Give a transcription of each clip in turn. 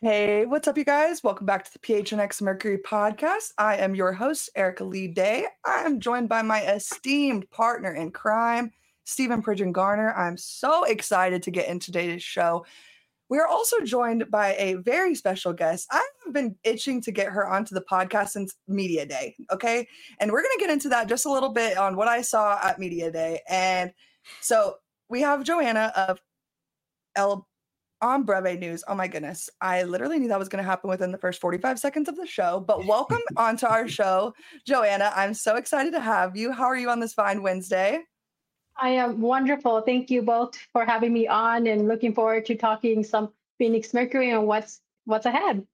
Hey, what's up, you guys? Welcome back to the PHNX Mercury podcast. I am your host, Erica Lee Day. I am joined by my esteemed partner in crime, Stephen Pridgeon Garner. I'm so excited to get into today's show. We are also joined by a very special guest. I have been itching to get her onto the podcast since Media Day, okay? And we're going to get into that just a little bit on what I saw at Media Day. And so we have Joanna of El on Breve News. Oh my goodness. I literally knew that was going to happen within the first 45 seconds of the show. But welcome onto our show, Joanna. I'm so excited to have you. How are you on this fine Wednesday? I am wonderful. Thank you both for having me on and looking forward to talking some Phoenix Mercury and what's ahead.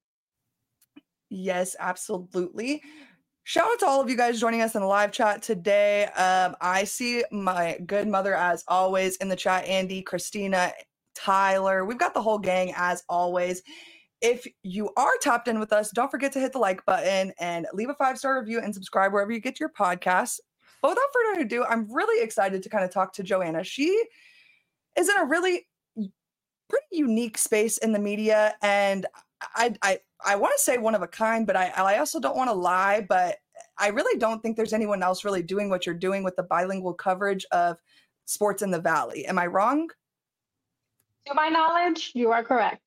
Yes, absolutely. Shout out to all of you guys joining us in the live chat today. I see my good mother, as always, in the chat. Andy, Christina, Tyler. We've got the whole gang, as always. If you are tapped in with us, don't forget to hit the like button and leave a 5-star review and subscribe wherever you get your podcasts. But without further ado, I'm really excited to kind of talk to Joanna. She is in a really pretty unique space in the media, and I want to say one of a kind, but I also don't want to lie, but I really don't think there's anyone else really doing what you're doing with the bilingual coverage of sports in the Valley. Am I wrong? To my knowledge, you are correct.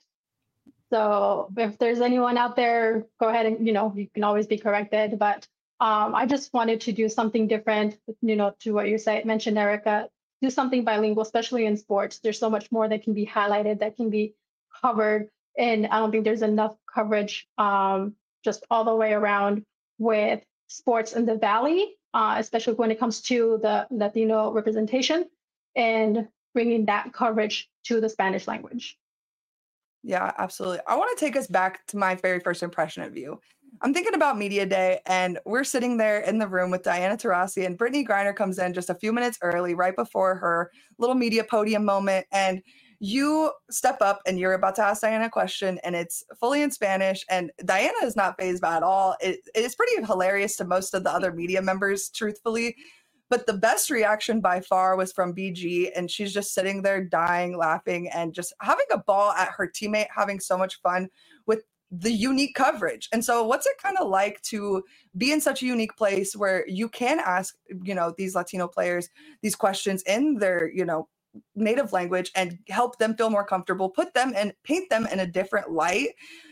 So if there's anyone out there, go ahead and, you can always be corrected. But I just wanted to do something different, to what you mentioned, Erica, do something bilingual, especially in sports. There's so much more that can be highlighted, that can be covered. And I don't think there's enough coverage just all the way around with sports in the Valley, especially when it comes to the Latino representation and bringing that coverage to the Spanish language. Yeah, absolutely. I want to take us back to my very first impression of you. I'm thinking about Media Day, and we're sitting there in the room with Diana Taurasi, and Brittany Griner comes in just a few minutes early, right before her little media podium moment. And you step up and you're about to ask Diana a question, and it's fully in Spanish. And Diana is not fazed by it at all. It is pretty hilarious to most of the other media members, truthfully. But the best reaction by far was from BG, and she's just sitting there dying, laughing, and just having a ball at her teammate, having so much fun with the unique coverage. And so what's it kind of like to be in such a unique place where you can ask, these Latino players these questions in their, native language and help them feel more comfortable, put them and paint them in a different light?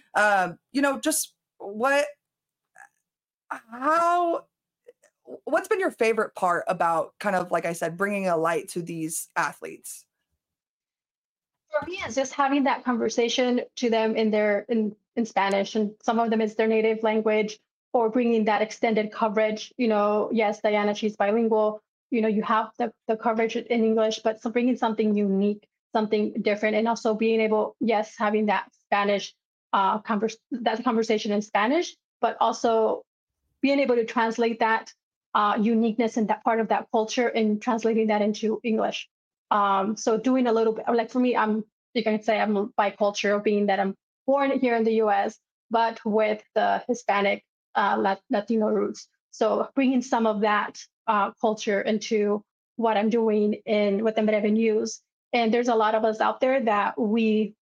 Just how what's been your favorite part about, kind of like I said, bringing a light to these athletes? For me, it's just having that conversation to them in Spanish, and some of them is their native language, or bringing that extended coverage. Yes, Diana, she's bilingual. You have the coverage in English, but so bringing something unique, something different, and also being able, yes, having that Spanish that conversation in Spanish, but also being able to translate that uniqueness and that part of that culture and translating that into English. So doing a little bit, like for me, you can say I'm bicultural, being that I'm born here in the U.S., but with the Hispanic Latino roots. So bringing some of that culture into what I'm doing with the Breve News. And there's a lot of us out there that we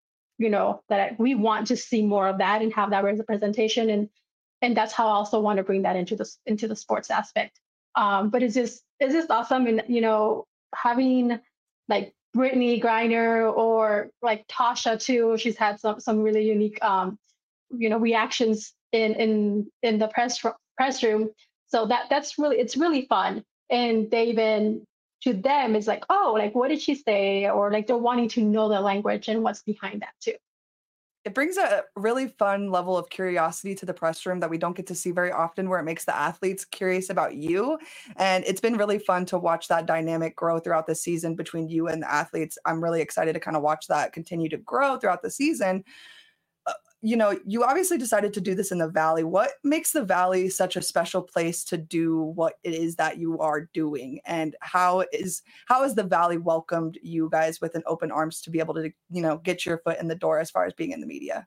want to see more of that and have that representation. And that's how I also want to bring that into the sports aspect. But it's just awesome, and having like Brittany Griner or like Tasha too. She's had some really unique reactions in the press room. So it's really fun. And they even, to them, it's like, oh, like what did she say? Or like they're wanting to know the language and what's behind that too. It brings a really fun level of curiosity to the press room that we don't get to see very often, where it makes the athletes curious about you. And it's been really fun to watch that dynamic grow throughout the season between you and the athletes. I'm really excited to kind of watch that continue to grow throughout the season. You obviously decided to do this in the Valley. What makes the Valley such a special place to do what it is that you are doing? And how has the Valley welcomed you guys with an open arms to be able to, get your foot in the door as far as being in the media?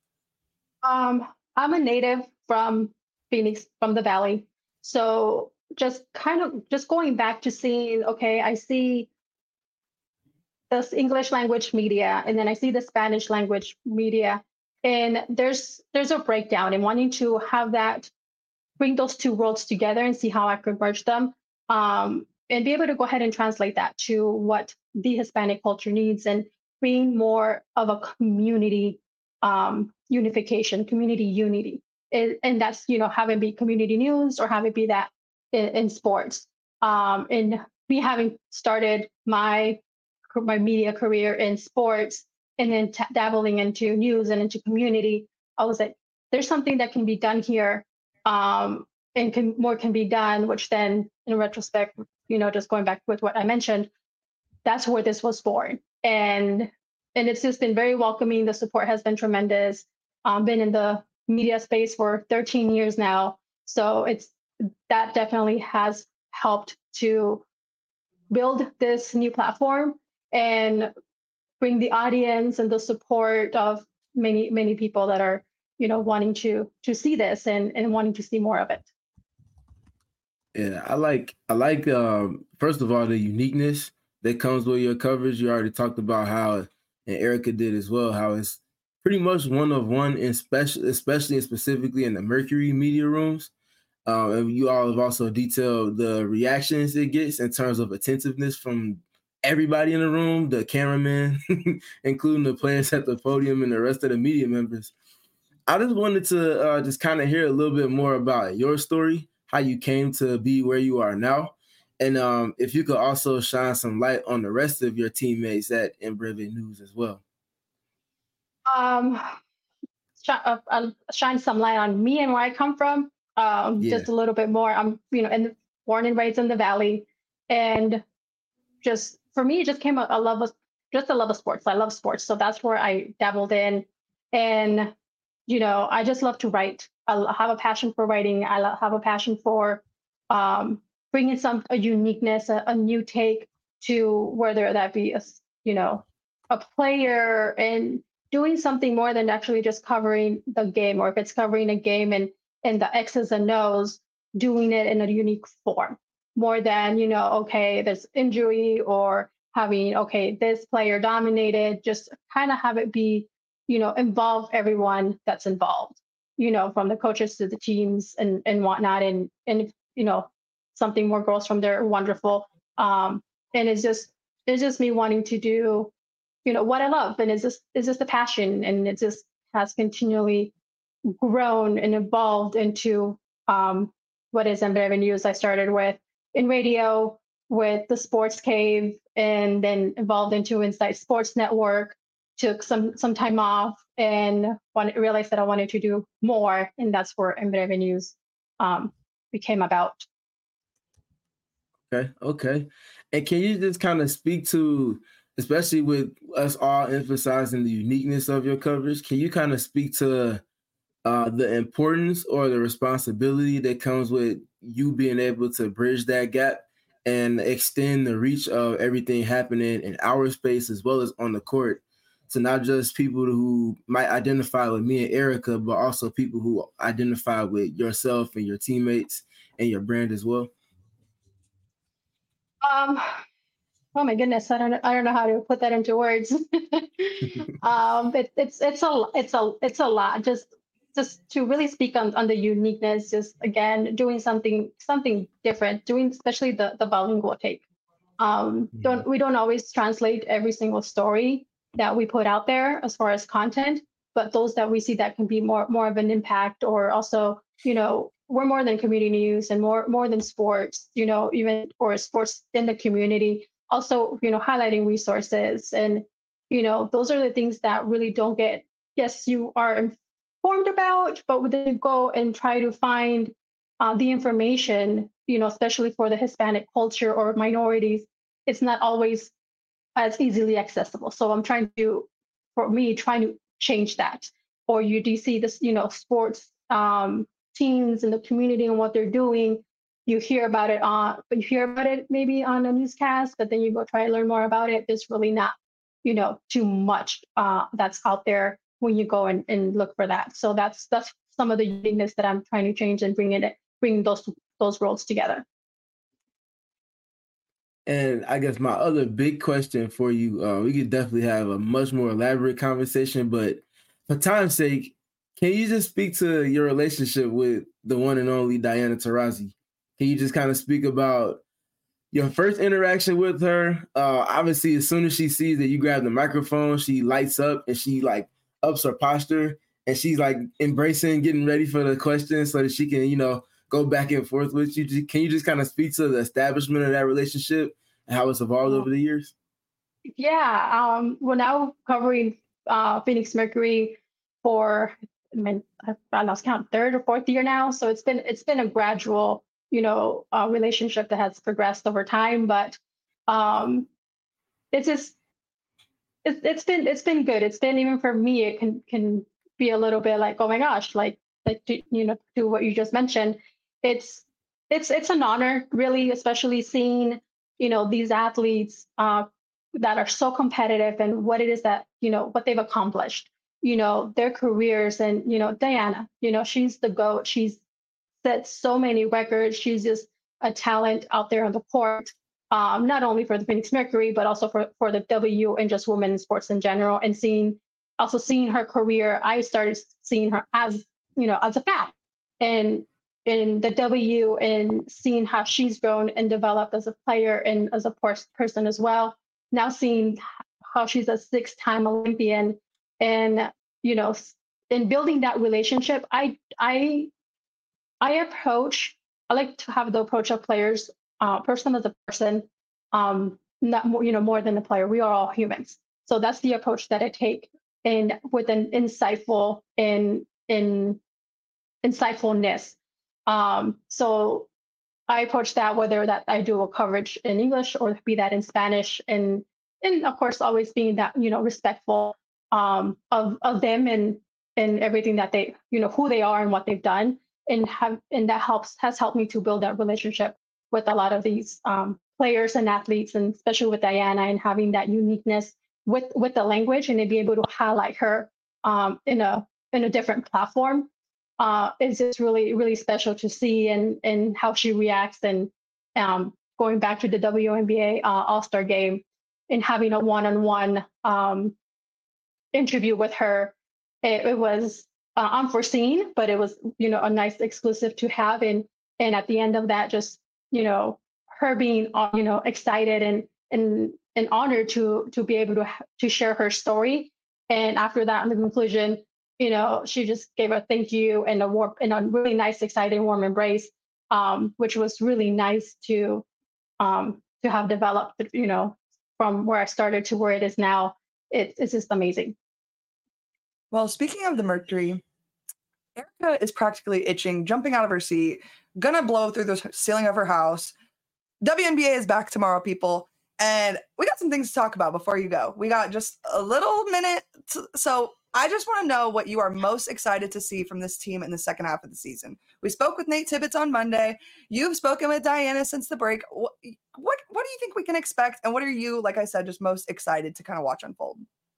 I'm a native from Phoenix, from the Valley. So just going back to seeing, okay, I see this English language media, and then I see the Spanish language media. And there's a breakdown in wanting to have that, bring those two worlds together and see how I could merge them, and be able to go ahead and translate that to what the Hispanic culture needs and bring more of a community unification, community unity. And that's, have it be community news or have it be that in sports. And me having started my media career in sports and then dabbling into news and into community, I was like, there's something that can be done here, and more can be done, which then in retrospect, just going back with what I mentioned, that's where this was born. And it's just been very welcoming. The support has been tremendous. Been in the media space for 13 years now. So that definitely has helped to build this new platform and bring the audience and the support of many, many people that are, wanting to see this and wanting to see more of it. Yeah, I like first of all the uniqueness that comes with your coverage. You already talked about how, and Erica did as well, how it's pretty much one of one, especially and specifically in the Mercury media rooms. And you all have also detailed the reactions it gets in terms of attentiveness from everybody in the room, the cameraman, including the players at the podium and the rest of the media members. I just wanted to just kind of hear a little bit more about your story, how you came to be where you are now, and if you could also shine some light on the rest of your teammates at Embreve News as well. Shine some light on me and where I come from. Just a little bit more. I'm, born and raised in the Valley, and just for me, it just came a love of sports. I love sports, so that's where I dabbled in, and I just love to write. I have a passion for writing. I have a passion for bringing a uniqueness, a new take to whether that be a player and doing something more than actually just covering the game, or if it's covering a game and the X's and O's, doing it in a unique form, more than, okay, there's injury or having, okay, this player dominated, just kind of have it be, involve everyone that's involved, from the coaches to the teams and whatnot. And if, something more grows from there, wonderful. And it's just me wanting to do, what I love. And it's just a passion, and it just has continually grown and evolved into what is Embreve News. I started with in radio with the Sports Cave, and then evolved into Insight Sports Network, took some time off, and realized that I wanted to do more, and that's where Embreve News became about. Okay. And can you just kind of speak to, especially with us all emphasizing the uniqueness of your coverage, can you kind of speak to the importance or the responsibility that comes with you being able to bridge that gap and extend the reach of everything happening in our space as well as on the court, to not just people who might identify with me and Erica, but also people who identify with yourself and your teammates and your brand as well? Oh my goodness, I don't know how to put that into words. It's a lot. Just to really speak on the uniqueness, just again doing something different, doing especially the bilingual take. We don't always translate every single story that we put out there as far as content, but those that we see that can be more of an impact, or also, we're more than community news and more than sports, even or sports in the community. Also, highlighting resources, and those are the things that really don't get. Yes, you are informed about, but when they go and try to find the information, especially for the Hispanic culture or minorities, it's not always as easily accessible. So I'm trying to change that. Or you do see this, sports teams in the community and what they're doing. You hear about it maybe on a newscast, but then you go try to learn more about it. There's really not, too much that's out there when you go and look for that. So that's some of the uniqueness that I'm trying to change and bring those worlds together. And I guess my other big question for you, we could definitely have a much more elaborate conversation, but for time's sake, can you just speak to your relationship with the one and only Diana Taurasi? Can you just kind of speak about your first interaction with her? Obviously, as soon as she sees that you grab the microphone, she lights up and she like ups her posture and she's like embracing, getting ready for the questions so that she can, go back and forth with you. Can you just kind of speak to the establishment of that relationship and how it's evolved over the years? Yeah. We're now covering Phoenix Mercury for, I lost count, third or fourth year now. So it's been a gradual, relationship that has progressed over time. But it's just it's been good. It's been, even for me, it can be a little bit like, oh my gosh, like to what you just mentioned. It's an honor, really, especially seeing these athletes that are so competitive and what it is that what they've accomplished, their careers. And Diana, she's the GOAT. She's set so many records. She's just a talent out there on the court, not only for the Phoenix Mercury, but also for the W and just women's sports in general. And seeing her career, I started seeing her as a fan, and in the W, and seeing how she's grown and developed as a player and as a person as well. Now seeing how she's a 6-time Olympian, and in building that relationship, I like to have the approach of players, person as a person, not more than a player. We are all humans, so that's the approach that I take, and with an insightfulness. So I approach that, whether that I do a coverage in English or be that in Spanish, and of course always being that respectful of them and everything that they who they are and what they've done, and that has helped me to build that relationship with a lot of these players and athletes, and especially with Diana, and having that uniqueness with the language, and to be able to highlight her in a different platform. It's just really, really special to see, and how she reacts. And going back to the WNBA All-Star game and having a one-on-one interview with her, it was unforeseen, but it was a nice exclusive to have. And at the end of that, just her being excited and honored to be able to share her story. And after that, in the conclusion, she just gave a thank you and a really nice, exciting, warm embrace, which was really nice to have developed, from where I started to where it is now. It's just amazing. Well, speaking of the Mercury, Erica is practically itching, jumping out of her seat, gonna blow through the ceiling of her house. WNBA is back tomorrow, people. And we got some things to talk about before you go. We got just a little minute. So I just want to know what you are most excited to see from this team in the second half of the season. We spoke with Nate Tibbetts on Monday. You've spoken with Diana since the break. What do you think we can expect? And what are you, like I said, just most excited to kind of watch unfold?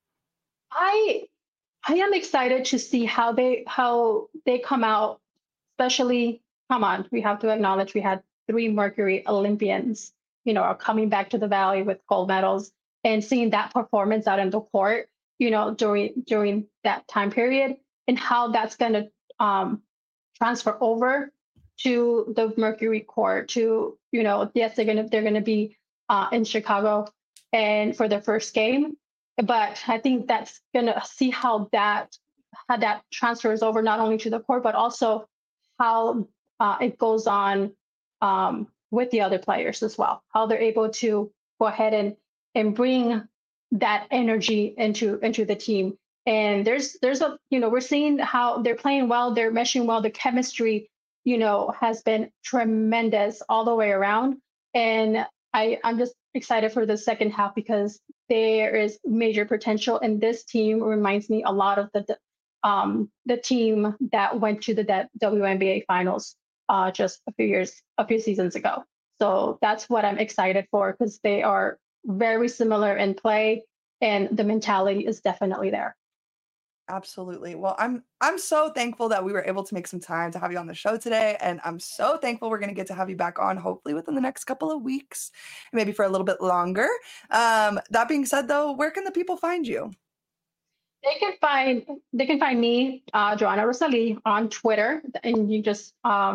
I am excited to see how they come out, especially, we have to acknowledge we had 3 Mercury Olympians, are coming back to the Valley with gold medals, and seeing that performance out in the court, during that time period, and how that's going to transfer over to the Mercury court. To yes, they're going to be in Chicago and for their first game, but I think that's going to see how that transfers over, not only to the court, but also how it goes on with the other players as well, how they're able to go ahead and bring that energy into the team. And there's a we're seeing how they're playing well, they're meshing well, the chemistry has been tremendous all the way around. And I'm just excited for the second half, because there is major potential, and this team reminds me a lot of the team that went to the WNBA finals just a few seasons ago. So that's what I'm excited for, because they are very similar in play, and the mentality is definitely there. Absolutely. Well, I'm so thankful that we were able to make some time to have you on the show today, and I'm so thankful we're going to get to have you back on, hopefully within the next couple of weeks, maybe for a little bit longer. That being said, though, where can the people find you? They can find me, Joanna Rosalie, on Twitter, and you just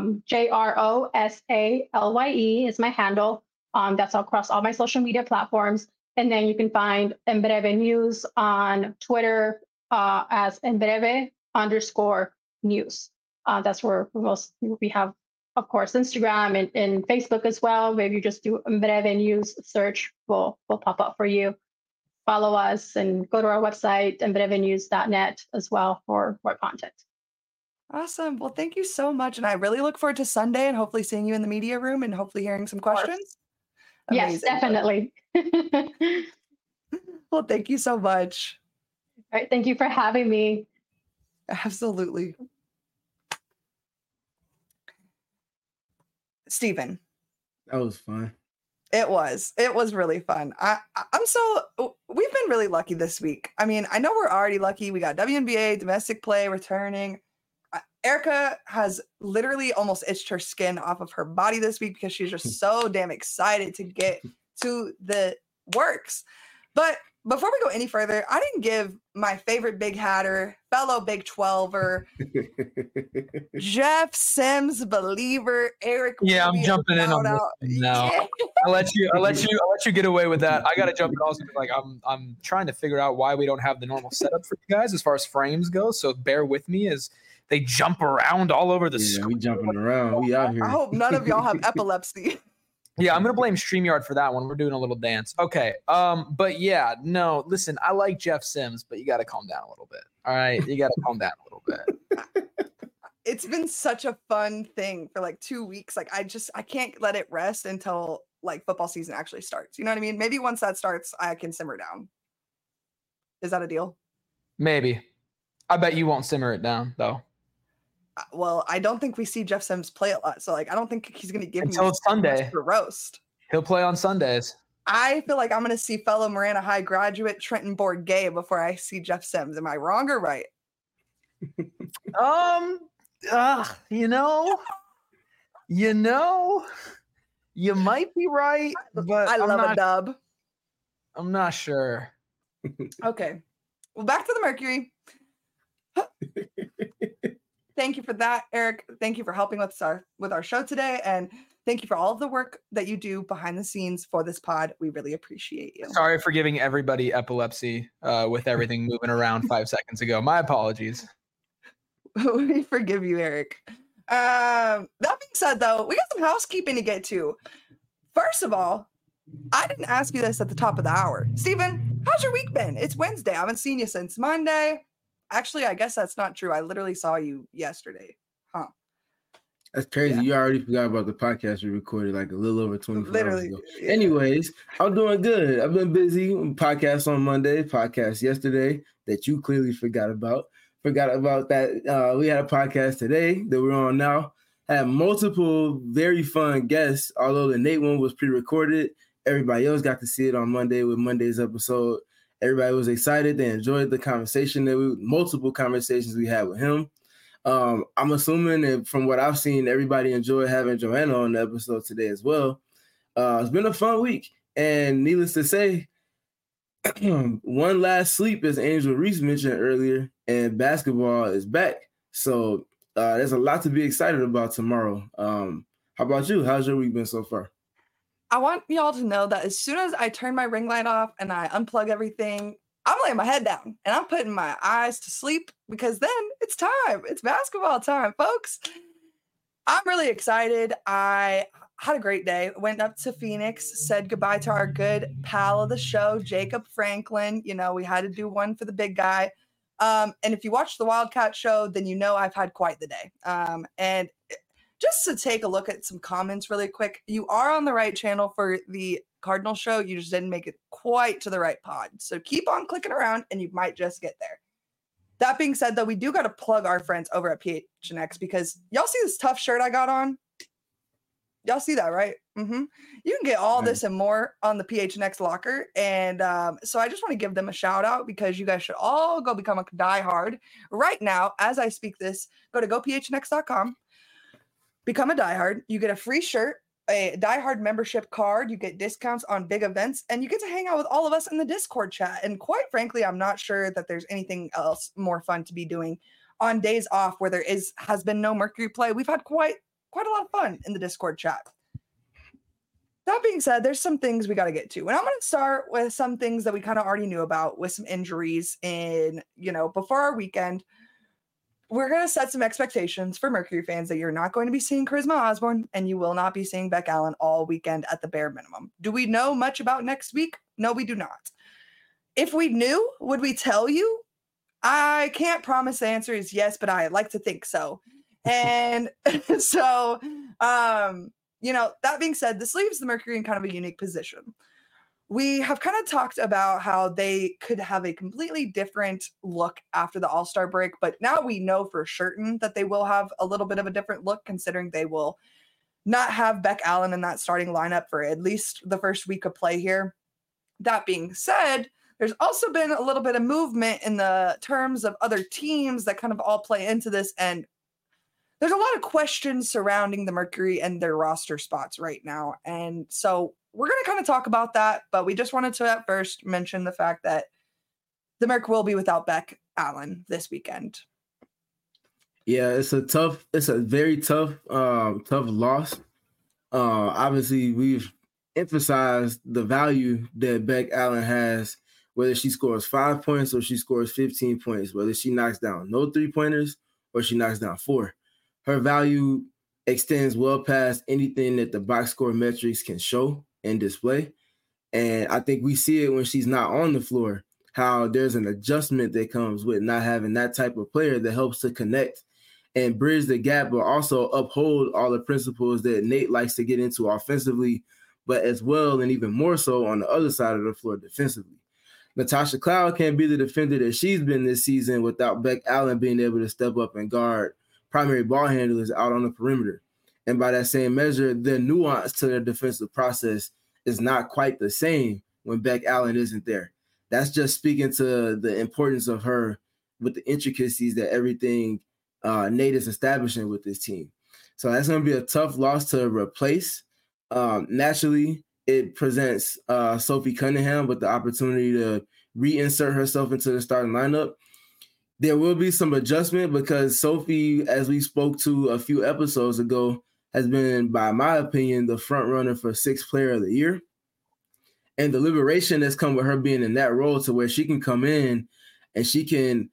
JROSALYE is my handle. That's across all my social media platforms. And then you can find Embreve News on Twitter as Embreve_news. That's where we have, of course, Instagram and Facebook as well. Where you just do Embreve News search, will pop up for you. Follow us and go to our website, embrevenews.net, as well for more content. Awesome. Well, thank you so much. And I really look forward to Sunday and hopefully seeing you in the media room and hopefully hearing some questions. Yes, definitely. Well, thank you so much. All right. Thank you for having me. Absolutely. Stephen. That was fun. It was really fun. We've been really lucky this week. I mean, I know we're already lucky. We got WNBA, domestic play returning. Erica has literally almost itched her skin off of her body this week because she's just so damn excited to get to the works. But before we go any further, I didn't give my favorite Big Hatter, fellow Big 12er, Jeff Sims believer, Eric. Yeah, I'm jumping in on this now. Yeah. I'll let you get away with that. I got to jump in also because I'm trying to figure out why we don't have the normal setup for you guys as far as frames go. So bear with me as they jump around all over the screen. We jumping around. We out here. I hope none of y'all have epilepsy. Yeah, I'm going to blame StreamYard for that one. We're doing a little dance. Okay. But yeah, no, listen, I like Jeff Sims, but you got to calm down a little bit. All right. You got to calm down a little bit. It's been such a fun thing for like 2 weeks. Like I can't let it rest until like football season actually starts. You know what I mean? Maybe once that starts, I can simmer down. Is that a deal? Maybe. I bet you won't simmer it down though. Well, I don't think we see Jeff Sims play a lot. So like, I don't think he's going to give until me it's Sunday for roast. He'll play on Sundays. I feel like I'm going to see fellow Marana High graduate Trenton Bourget before I see Jeff Sims. Am I wrong or right? You might be right, but I love a dub. I'm not sure. Okay. Well, back to the Mercury. Thank you for that, Eric. Thank you for helping with our show today. And thank you for all of the work that you do behind the scenes for this pod. We really appreciate you. Sorry for giving everybody epilepsy with everything moving around 5 seconds ago. My apologies. We forgive you, Eric. That being said, though, we got some housekeeping to get to. First of all, I didn't ask you this at the top of the hour. Stephen, how's your week been? It's Wednesday. I haven't seen you since Monday. Actually, I guess that's not true. I literally saw you yesterday. Huh. That's crazy. Yeah. You already forgot about the podcast we recorded like a little over 24 hours ago. Yeah. Anyways, I'm doing good. I've been busy. Podcast on Monday, podcast yesterday that you clearly forgot about. Forgot about that. We had a podcast today that we're on now. Had multiple very fun guests, although the Nate one was pre-recorded. Everybody else got to see it on Monday with Monday's episode. Everybody was excited. They enjoyed the conversation multiple conversations we had with him. I'm assuming that from what I've seen, everybody enjoyed having Joanna on the episode today as well. It's been a fun week. And needless to say, one last sleep, as Angel Reese mentioned earlier, and basketball is back. So there's a lot to be excited about tomorrow. How about you? How's your week been so far? I want y'all to know that as soon as I turn my ring light off and I unplug everything, I'm laying my head down and I'm putting my eyes to sleep because then it's time. It's basketball time, folks. I'm really excited. I had a great day. Went up to Phoenix, said goodbye to our good pal of the show, Jacob Franklin. You know, we had to do one for the big guy. And if you watch the Wildcat show, then you know I've had quite the day. And just to take a look at some comments really quick, you are on the right channel for the Cardinal show. You just didn't make it quite to the right pod. So keep on clicking around and you might just get there. That being said, though, we do got to plug our friends over at PHNX because y'all see this tough shirt I got on? Y'all see that, right? Mm-hmm. You can get all this and more on the PHNX locker. And so I just want to give them a shout out because you guys should all go become a diehard. Right now, as I speak this, go to gophnx.com. Become a diehard. You get a free shirt, a diehard membership card. You get discounts on big events, and you get to hang out with all of us in the Discord chat. And quite frankly, I'm not sure that there's anything else more fun to be doing on days off where there has been no Mercury play. We've had quite a lot of fun in the Discord chat. That being said, there's some things we got to get to. And I'm going to start with some things that we kind of already knew about with some injuries before our weekend. We're going to set some expectations for Mercury fans that you're not going to be seeing Charisma Osborne and you will not be seeing Beck Allen all weekend at the bare minimum. Do we know much about next week? No, we do not. If we knew, would we tell you? I can't promise the answer is yes, but I like to think so. And so, that being said, this leaves the Mercury in kind of a unique position. We have kind of talked about how they could have a completely different look after the All-Star break, but now we know for certain that they will have a little bit of a different look, considering they will not have Beck Allen in that starting lineup for at least the first week of play here. That being said, there's also been a little bit of movement in the terms of other teams that kind of all play into this, and there's a lot of questions surrounding the Mercury and their roster spots right now. And so we're going to kind of talk about that, but we just wanted to at first mention the fact that the Merc will be without Beck Allen this weekend. Yeah, it's a very tough loss. Obviously, we've emphasized the value that Beck Allen has, whether she scores 5 points or she scores 15 points, whether she knocks down no 3-pointers or she knocks down 4. Her value extends well past anything that the box score metrics can show and display. And I think we see it when she's not on the floor, how there's an adjustment that comes with not having that type of player that helps to connect and bridge the gap, but also uphold all the principles that Nate likes to get into offensively, but as well and even more so on the other side of the floor defensively. Natasha Cloud can't be the defender that she's been this season without Beck Allen being able to step up and guard primary ball handlers out on the perimeter. And by that same measure, the nuance to their defensive process is not quite the same when Beck Allen isn't there. That's just speaking to the importance of her with the intricacies that everything Nate is establishing with this team. So that's going to be a tough loss to replace. Naturally, it presents Sophie Cunningham with the opportunity to reinsert herself into the starting lineup. There will be some adjustment because Sophie, as we spoke to a few episodes ago, has been, by my opinion, the front runner for 6th Player of the Year. And the liberation that's come with her being in that role to where she can come in and she can,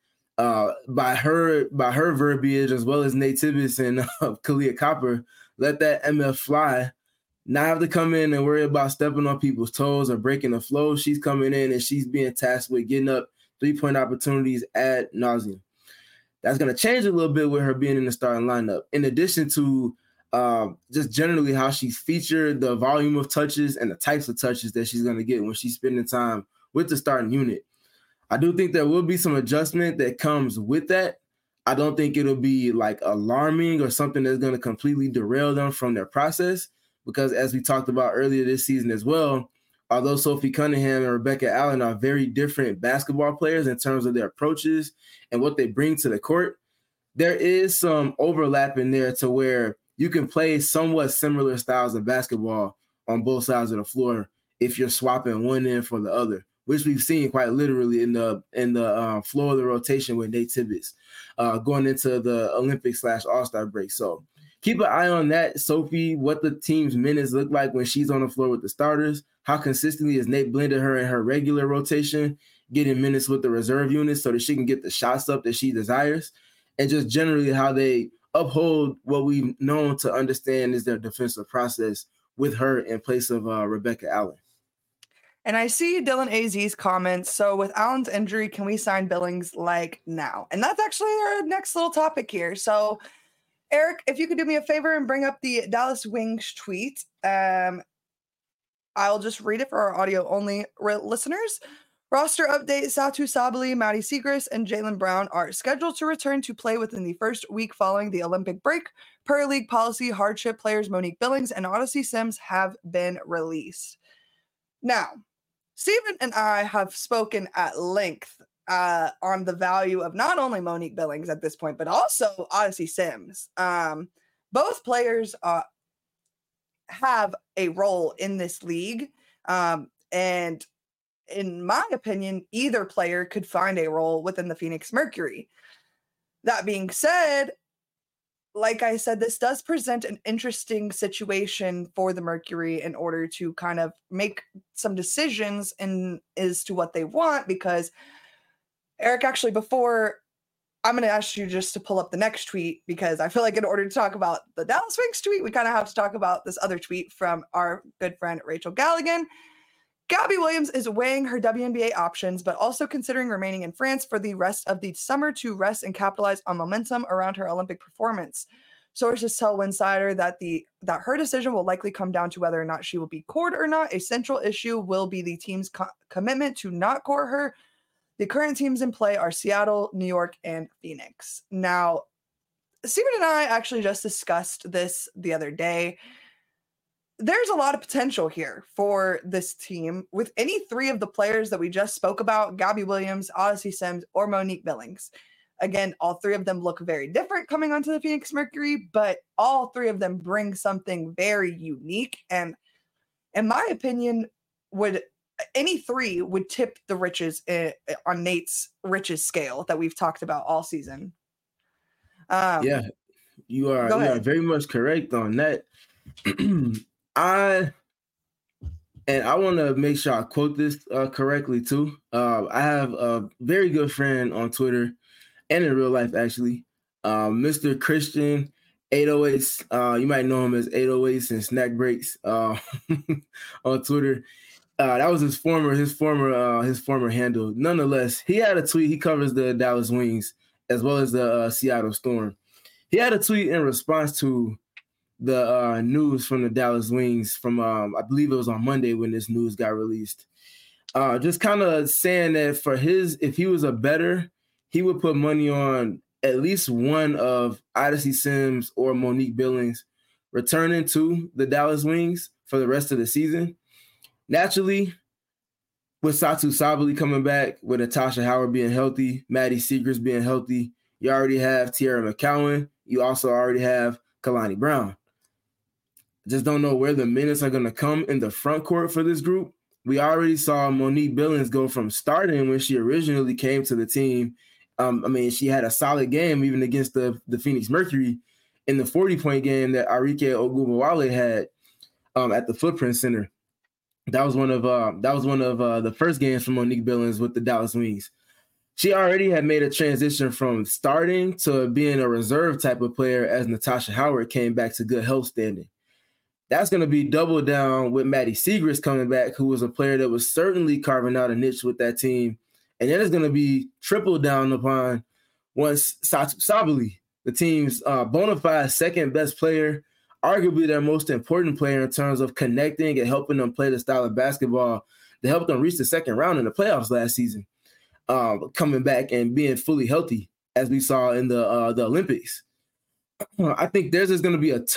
by her verbiage, as well as Nate Tibbetts and Kalia Copper, let that MF fly, not have to come in and worry about stepping on people's toes or breaking the flow. She's coming in and she's being tasked with getting up 3-point opportunities ad nauseum. That's going to change a little bit with her being in the starting lineup. In addition to just generally how she's featured, the volume of touches and the types of touches that she's going to get when she's spending time with the starting unit. I do think there will be some adjustment that comes with that. I don't think it'll be like alarming or something that's going to completely derail them from their process, because as we talked about earlier this season as well, although Sophie Cunningham and Rebecca Allen are very different basketball players in terms of their approaches and what they bring to the court, there is some overlap in there to where you can play somewhat similar styles of basketball on both sides of the floor if you're swapping one end for the other, which we've seen quite literally in the flow of the rotation with Nate Tibbetts going into the Olympic/All-Star break. So keep an eye on that, Sophie, what the team's minutes look like when she's on the floor with the starters. How consistently has Nate blended her in her regular rotation, getting minutes with the reserve units so that she can get the shots up that she desires, and just generally how they uphold what we've known to understand is their defensive process with her in place of Rebecca Allen. And I see Dylan AZ's comments. So with Allen's injury, can we sign Billings like now? And that's actually our next little topic here. So Eric, if you could do me a favor and bring up the Dallas Wings tweet. I'll just read it for our audio-only listeners. Roster update, Satu Sabali, Maddie Siegrist, and Jaylen Brown are scheduled to return to play within the first week following the Olympic break. Per league policy, hardship players Monique Billings and Odyssey Sims have been released. Now, Stephen and I have spoken at length on the value of not only Monique Billings at this point, but also Odyssey Sims. Both players have a role in this league. And in my opinion, either player could find a role within the Phoenix Mercury. That being said, like I said, this does present an interesting situation for the Mercury in order to kind of make some decisions as to what they want, because Eric, actually, before I'm going to ask you just to pull up the next tweet, because I feel like in order to talk about the Dallas Wings tweet, we kind of have to talk about this other tweet from our good friend Rachel Galligan. Gabby Williams is weighing her WNBA options, but also considering remaining in France for the rest of the summer to rest and capitalize on momentum around her Olympic performance. Sources tell Winsider that her decision will likely come down to whether or not she will be cored or not. A central issue will be the team's commitment to not court her. The current teams in play are Seattle, New York, and Phoenix. Now, Steven and I actually just discussed this the other day. There's a lot of potential here for this team with any three of the players that we just spoke about, Gabby Williams, Odyssey Sims, or Monique Billings. Again, all three of them look very different coming onto the Phoenix Mercury, but all three of them bring something very unique. And in my opinion, any three would tip the riches on Nate's riches scale that we've talked about all season. Yeah, you are very much correct on that. I want to make sure I quote this correctly too. I have a very good friend on Twitter and in real life, actually, Mr. Christian 808. You might know him as 808s and Snack Breaks on Twitter. That was his former handle. Nonetheless, he had a tweet. He covers the Dallas Wings as well as the Seattle Storm. He had a tweet in response to the news from the Dallas Wings from I believe it was on Monday when this news got released. Just kind of saying that if he was a bettor, he would put money on at least one of Odyssey Sims or Monique Billings returning to the Dallas Wings for the rest of the season. Naturally, with Satou Sabally coming back, with Natasha Howard being healthy, Maddie Siegrist being healthy, you already have Tierra McCowan. You also already have Kalani Brown. Just don't know where the minutes are going to come in the front court for this group. We already saw Monique Billings go from starting when she originally came to the team. She had a solid game even against the Phoenix Mercury in the 40-point game that Arike Ogunbowale had at the Footprint Center. That was one of the first games from Monique Billings with the Dallas Wings. She already had made a transition from starting to being a reserve type of player as Natasha Howard came back to good health standing. That's going to be double down with Maddie Siegrist coming back, who was a player that was certainly carving out a niche with that team. And then it's going to be triple down upon once Satou Sabally, the team's bona fide second best player, arguably their most important player in terms of connecting and helping them play the style of basketball that helped them reach the second round in the playoffs last season, coming back and being fully healthy, as we saw in the Olympics. I think there's going to be a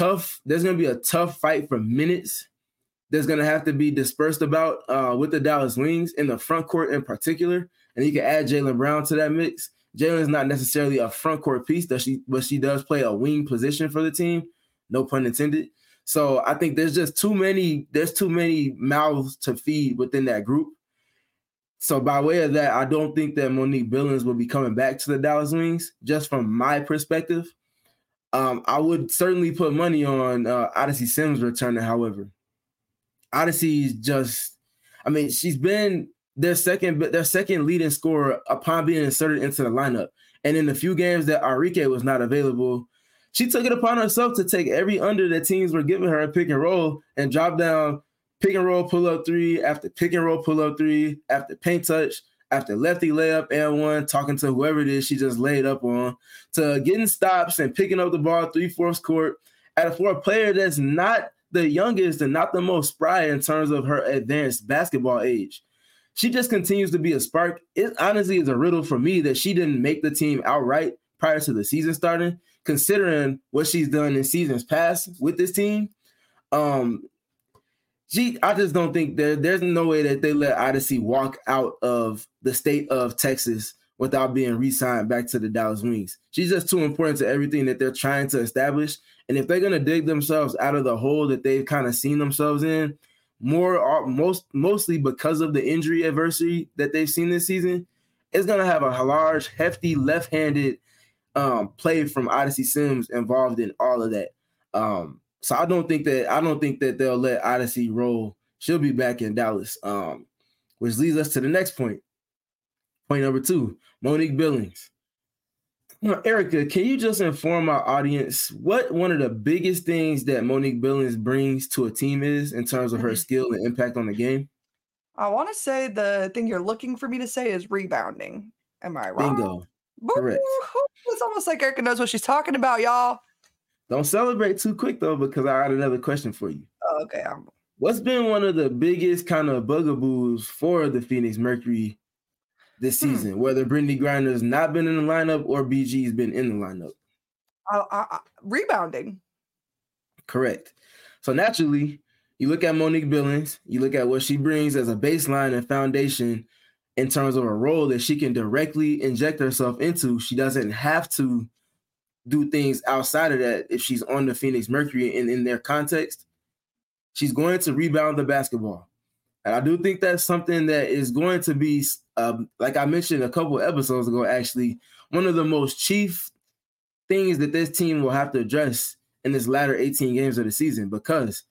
tough fight for minutes. There's going to have to be dispersed about with the Dallas Wings in the front court in particular. And you can add Jaylen Brown to that mix. Jaylen's not necessarily a front court piece, but she does play a wing position for the team. No pun intended. So I think there's too many mouths to feed within that group. So by way of that, I don't think that Monique Billings will be coming back to the Dallas Wings, just from my perspective. I would certainly put money on Odyssey Sims returning, however. Odyssey's she's been their second leading scorer upon being inserted into the lineup. And in the few games that Arike was not available, she took it upon herself to take every under that teams were giving her a pick and roll and drop down pick and roll pull-up three after pick and roll pull-up three after paint touch after lefty layup and one, talking to whoever it is she just laid up on, to getting stops and picking up the ball 3/4 court for a player that's not the youngest and not the most spry in terms of her advanced basketball age. She just continues to be a spark. It honestly is a riddle for me that she didn't make the team outright prior to the season starting, considering what she's done in seasons past with this team. I just don't think there's no way that they let Odyssey walk out of the state of Texas without being re-signed back to the Dallas Wings. She's just too important to everything that they're trying to establish. And if they're going to dig themselves out of the hole that they've kind of seen themselves in, mostly because of the injury adversity that they've seen this season, it's going to have a large, hefty, left-handed play from Odyssey Sims involved in all of that. So I don't think that they'll let Odyssey roll. She'll be back in Dallas, which leads us to the next point. Point number 2, Monique Billings. Erica, can you just inform our audience what one of the biggest things that Monique Billings brings to a team is in terms of her skill and impact on the game? I want to say the thing you're looking for me to say is rebounding. Am I wrong? Bingo. Correct. It's almost like Erica knows what she's talking about, y'all. Don't celebrate too quick, though, because I got another question for you. Oh, okay. What's been one of the biggest kind of bugaboos for the Phoenix Mercury this season, whether Brittany Griner's not been in the lineup or BG's been in the lineup? Rebounding. Correct. So naturally, you look at Monique Billings, you look at what she brings as a baseline and foundation in terms of a role that she can directly inject herself into. She doesn't have to do things outside of that if she's on the Phoenix Mercury and in their context. She's going to rebound the basketball. And I do think that's something that is going to be, like I mentioned a couple of episodes ago, actually, one of the most chief things that this team will have to address in this latter 18 games of the season, because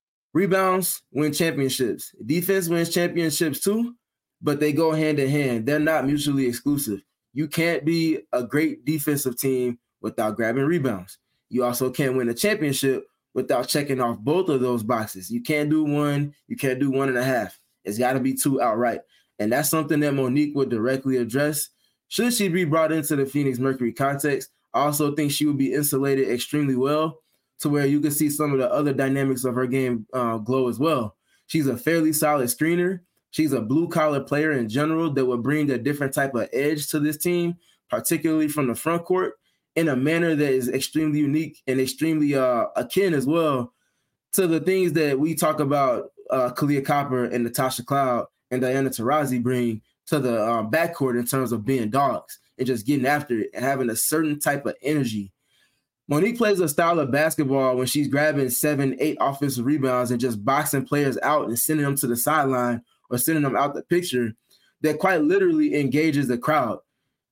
rebounds win championships. Defense wins championships too, but they go hand in hand. They're not mutually exclusive. You can't be a great defensive team without grabbing rebounds. You also can't win a championship without checking off both of those boxes. You can't do one. You can't do 1.5. It's got to be 2 outright. And that's something that Monique would directly address. Should she be brought into the Phoenix Mercury context, I also think she would be insulated extremely well to where you can see some of the other dynamics of her game glow as well. She's a fairly solid screener. She's a blue-collar player in general that would bring a different type of edge to this team, particularly from the front court, in a manner that is extremely unique and extremely akin as well to the things that we talk about Kahleah Copper and Natasha Cloud and Diana Taurasi bring to the backcourt in terms of being dogs and just getting after it and having a certain type of energy. Monique plays a style of basketball when she's grabbing 7, 8 offensive rebounds and just boxing players out and sending them to the sideline or sending them out the picture that quite literally engages the crowd.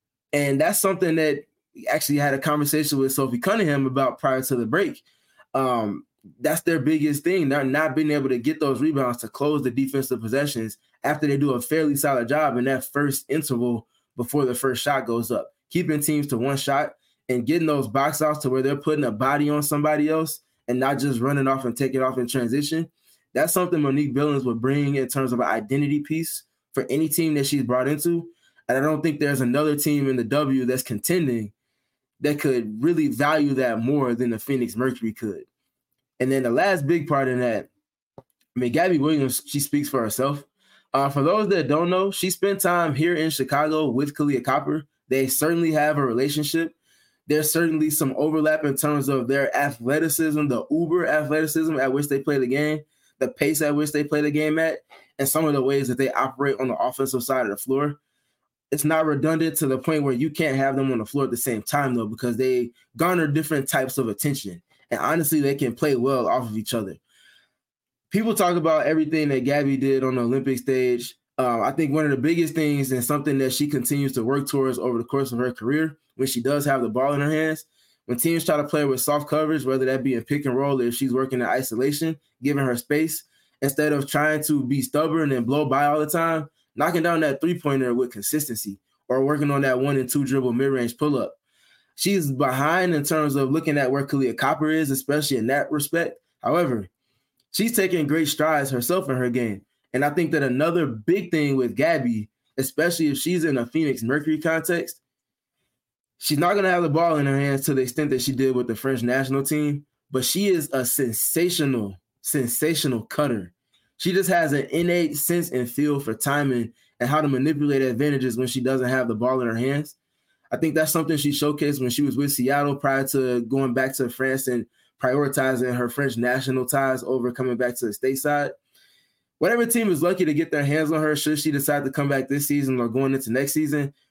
And that's something that actually had a conversation with Sophie Cunningham about prior to the break. That's their biggest thing. They're not being able to get those rebounds to close the defensive possessions after they do a fairly solid job in that first interval before the first shot goes up, keeping teams to one shot and getting those box outs to where they're putting a body on somebody else and not just running off and taking off in transition. That's something Monique Billings would bring in terms of an identity piece for any team that she's brought into. And I don't think there's another team in the W that's contending that could really value that more than the Phoenix Mercury could. And then the last big part in that, Gabby Williams, she speaks for herself. For those that don't know, she spent time here in Chicago with Kahleah Copper. They certainly have a relationship. There's certainly some overlap in terms of their athleticism, the uber athleticism at which they play the game, the pace at which they play the game at, and some of the ways that they operate on the offensive side of the floor. It's not redundant to the point where you can't have them on the floor at the same time, though, because they garner different types of attention. And honestly, they can play well off of each other. People talk about everything that Gabby did on the Olympic stage. I think one of the biggest things and something that she continues to work towards over the course of her career, when she does have the ball in her hands, when teams try to play with soft coverage, whether that be in pick and roll or if she's working in isolation, giving her space, instead of trying to be stubborn and blow by all the time, knocking down that three-pointer with consistency or working on that 1 and 2 dribble mid-range pull-up. She's behind in terms of looking at where Kahleah Copper is, especially in that respect. However, she's taking great strides herself in her game. And I think that another big thing with Gabby, especially if she's in a Phoenix Mercury context, she's not going to have the ball in her hands to the extent that she did with the French national team, but she is a sensational cutter. She just has an innate sense and feel for timing and how to manipulate advantages when she doesn't have the ball in her hands. I think that's something she showcased when she was with Seattle prior to going back to France and prioritizing her French national ties over coming back to the stateside. Whatever team is lucky to get their hands on her, should she decide to come back this season or going into next season,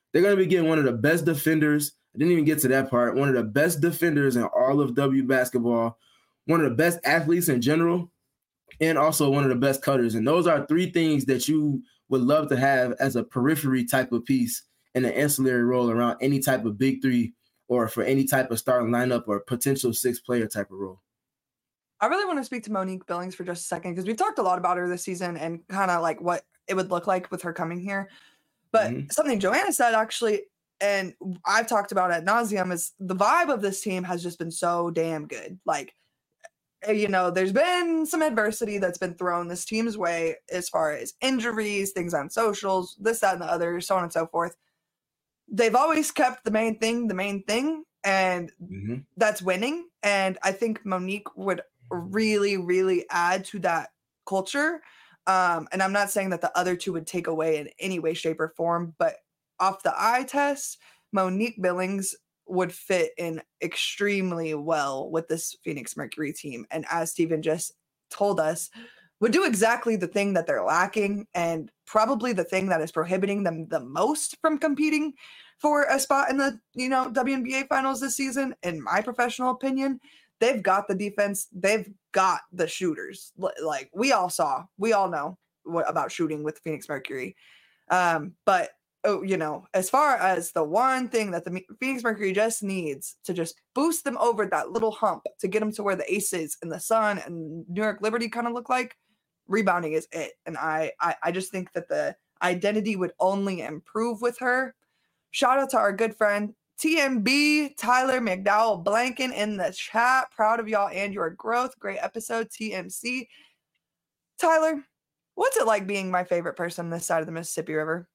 They're going to be getting one of the best defenders. I didn't even get to that part. One of the best defenders in all of W basketball, one of the best athletes in general, and also one of the best cutters. And those are three things that you would love to have as a periphery type of piece in an ancillary role around any type of big three or for any type of starting lineup or potential 6-player type of role. I really want to speak to Monique Billings for just a second because we've talked a lot about her this season and kind of like what it would look like with her coming here. But something Joanna said actually, and I've talked about ad nauseum, is the vibe of this team has just been so damn good. Like, you know, there's been some adversity that's been thrown this team's way as far as injuries, things on socials, this, that, and the other, so on and so forth. They've always kept the main thing, and that's winning. And I think Monique would really, really add to that culture. And I'm not saying that the other two would take away in any way, shape, or form, but off the eye test, Monique Billings would fit in extremely well with this Phoenix Mercury team. And as Steven just told us, would do exactly the thing that they're lacking and probably the thing that is prohibiting them the most from competing for a spot in the, you know, WNBA finals this season. In my professional opinion, they've got the defense. They've got the shooters. Like we all know about shooting with Phoenix Mercury. But you know, as far as the one thing that the Phoenix Mercury just needs to just boost them over that little hump to get them to where the Aces and the Sun and New York Liberty kind of look like, rebounding is it. And I just think that the identity would only improve with her. Shout out to our good friend TMB, Tyler McDowell Blanken in the chat. Proud of y'all and your growth. Great episode, TMC. Tyler, what's it like being my favorite person this side of the Mississippi River?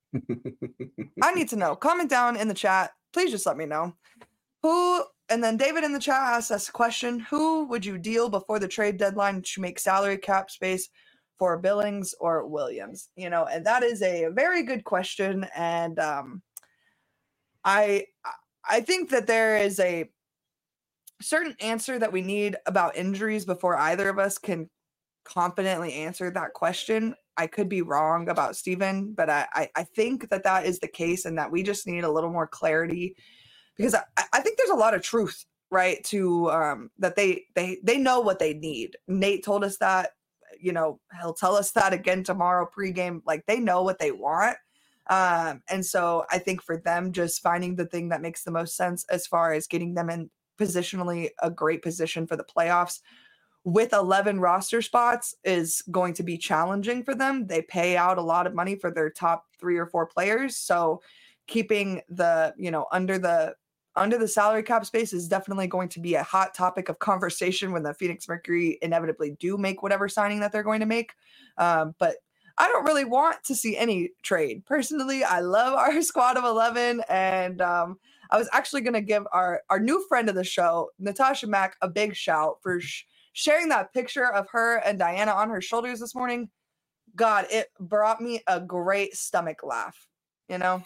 I need to know. Comment down in the chat. Please just let me know. And then David in the chat asked us a question. Who would you deal before the trade deadline to make salary cap space for Billings or Williams? You know, and that is a very good question. And I think that there is a certain answer that we need about injuries before either of us can confidently answer that question. I could be wrong about Steven, but I think that is the case and that we just need a little more clarity because I think there's a lot of truth, right, to that they know what they need. Nate told us that, you know, he'll tell us that again tomorrow pregame. Like they know what they want. And so I think for them, just finding the thing that makes the most sense as far as getting them in positionally a great position for the playoffs with 11 roster spots is going to be challenging for them. They pay out a lot of money for their top 3 or 4 players. So keeping the, you know, under the salary cap space is definitely going to be a hot topic of conversation when the Phoenix Mercury inevitably do make whatever signing that they're going to make. But I don't really want to see any trade. Personally, I love our squad of 11. And I was actually going to give our new friend of the show, Natasha Mack, a big shout for sharing that picture of her and Diana on her shoulders this morning. God, it brought me a great stomach laugh, you know?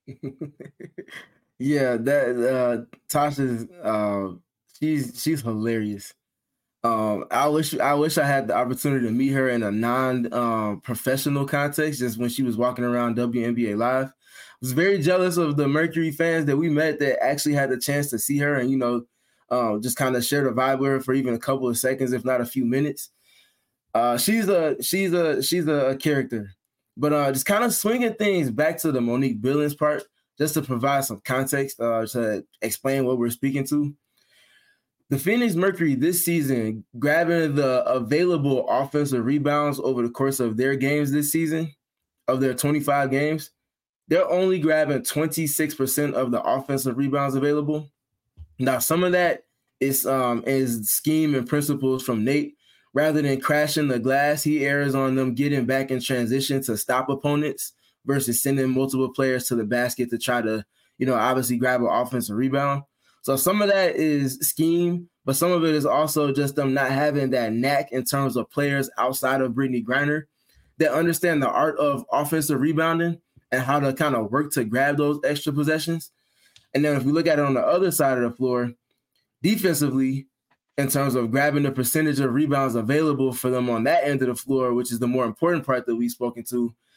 Yeah, that Tasha's she's hilarious. I wish I had the opportunity to meet her in a non-professional context, just when she was walking around WNBA Live. I was very jealous of the Mercury fans that we met that actually had the chance to see her and, you know, just kind of share the vibe with her for even a couple of seconds, if not a few minutes. She's a character, but just kind of swinging things back to the Monique Billings part, just to provide some context to explain what we're speaking to. The Phoenix Mercury this season, grabbing the available offensive rebounds over the course of their games this season, of their 25 games, they're only grabbing 26% of the offensive rebounds available. Now, some of that is scheme and principles from Nate. Rather than crashing the glass, he errs on them getting back in transition to stop opponents versus sending multiple players to the basket to try to, you know, obviously grab an offensive rebound. So some of that is scheme, but some of it is also just them not having that knack in terms of players outside of Brittany Griner that understand the art of offensive rebounding and how to kind of work to grab those extra possessions. And then if we look at it on the other side of the floor, defensively, in terms of grabbing the percentage of rebounds available for them on that end of the floor, which is the more important part that we've spoken to,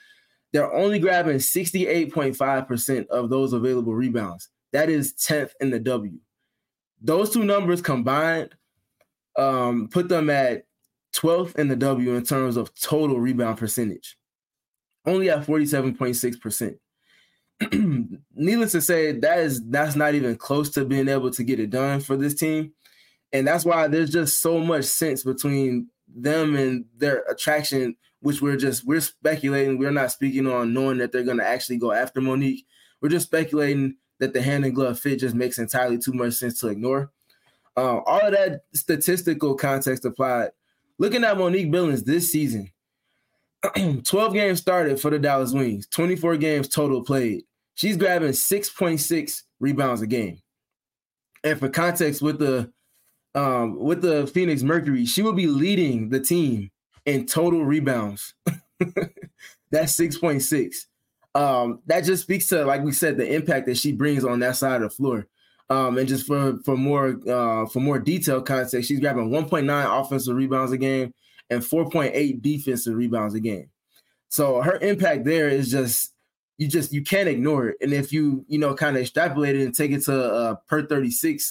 they're only grabbing 68.5% of those available rebounds. That is 10th in the W. Those two numbers combined put them at 12th in the W in terms of total rebound percentage, only at 47.6%. Needless to say, that's not even close to being able to get it done for this team. And that's why there's just so much sense between them and their attraction, which we're speculating. We're not speaking on knowing that they're going to actually go after Monique. We're just speculating that the hand and glove fit just makes entirely too much sense to ignore. All of that statistical context applied. Looking at Monique Billings this season, 12 games started for the Dallas Wings, 24 games total played. She's grabbing 6.6 rebounds a game. And for context, with the Phoenix Mercury, she will be leading the team in total rebounds. That's 6.6. That just speaks to, like we said, the impact that she brings on that side of the floor. And just for more detailed context, she's grabbing 1.9 offensive rebounds a game and 4.8 defensive rebounds a game. So her impact there is just you can't ignore it. And if you kind of extrapolate it and take it to a per 36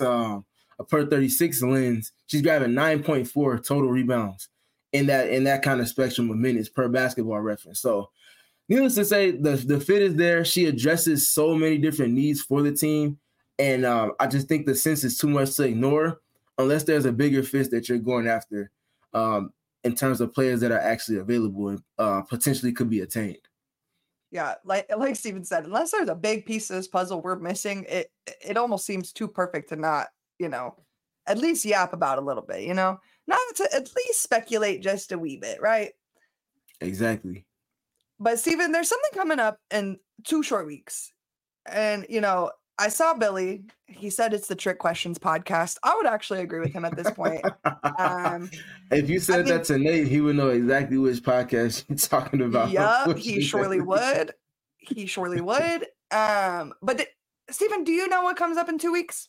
lens, she's grabbing 9.4 total rebounds in that kind of spectrum of minutes per Basketball Reference. So needless to say, the fit is there. She addresses so many different needs for the team. And I just think the sense is too much to ignore unless there's a bigger fish that you're going after in terms of players that are actually available and potentially could be attained. Yeah, like Steven said, unless there's a big piece of this puzzle we're missing, it almost seems too perfect to not, at least yap about a little bit, not to at least speculate just a wee bit, right? Exactly. But Steven, there's something coming up in 2 short weeks. And, I saw Billy. He said it's the Trick Questions podcast. I would actually agree with him at this point. If you said that to Nate, he would know exactly which podcast you're talking about. Yep, he surely would. He surely would. But Steven, do you know what comes up in 2 weeks?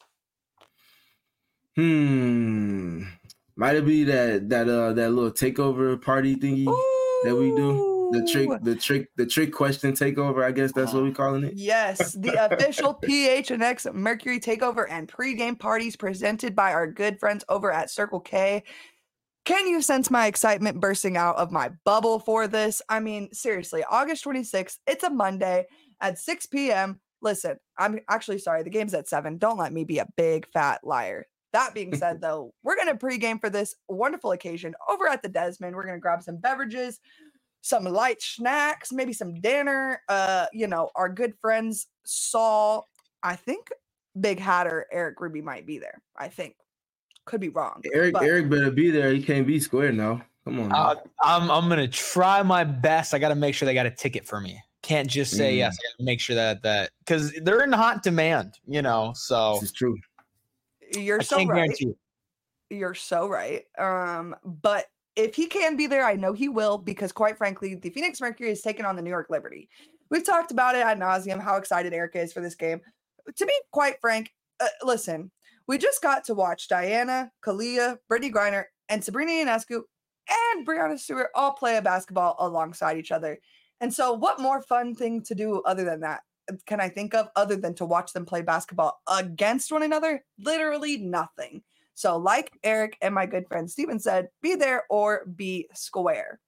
Might it be that little takeover party thingy that we do? The trick question takeover, I guess that's what we're calling it. Yes, the official PHNX Mercury takeover and pregame parties presented by our good friends over at Circle K. Can you sense my excitement bursting out of my bubble for this? I mean, seriously, August 26th, it's a Monday at 6 p.m. Listen, I'm actually sorry, the game's at 7. Don't let me be a big fat liar. That being said, though, we're going to pregame for this wonderful occasion over at the Desmond. We're going to grab some beverages, some light snacks, maybe some dinner. Our good friends Saul, I think Big Hatter Eric Ruby might be there. I think. Could be wrong. Eric better be there. He can't be square now. Come on. I'm gonna try my best. I got to make sure they got a ticket for me. Can't just say yes. I got to make sure that because they're in hot demand. So this is true. You're so right. You're so right. But if he can be there, I know he will, because quite frankly, the Phoenix Mercury is taking on the New York Liberty. We've talked about it ad nauseum, how excited Erica is for this game. To be quite frank, listen, we just got to watch Diana, Kalia, Brittany Griner, and Sabrina Ionescu and Breanna Stewart all play a basketball alongside each other. And so what more fun thing to do other than that can I think of other than to watch them play basketball against one another? Literally nothing. So like Eric and my good friend Steven said, be there or be square.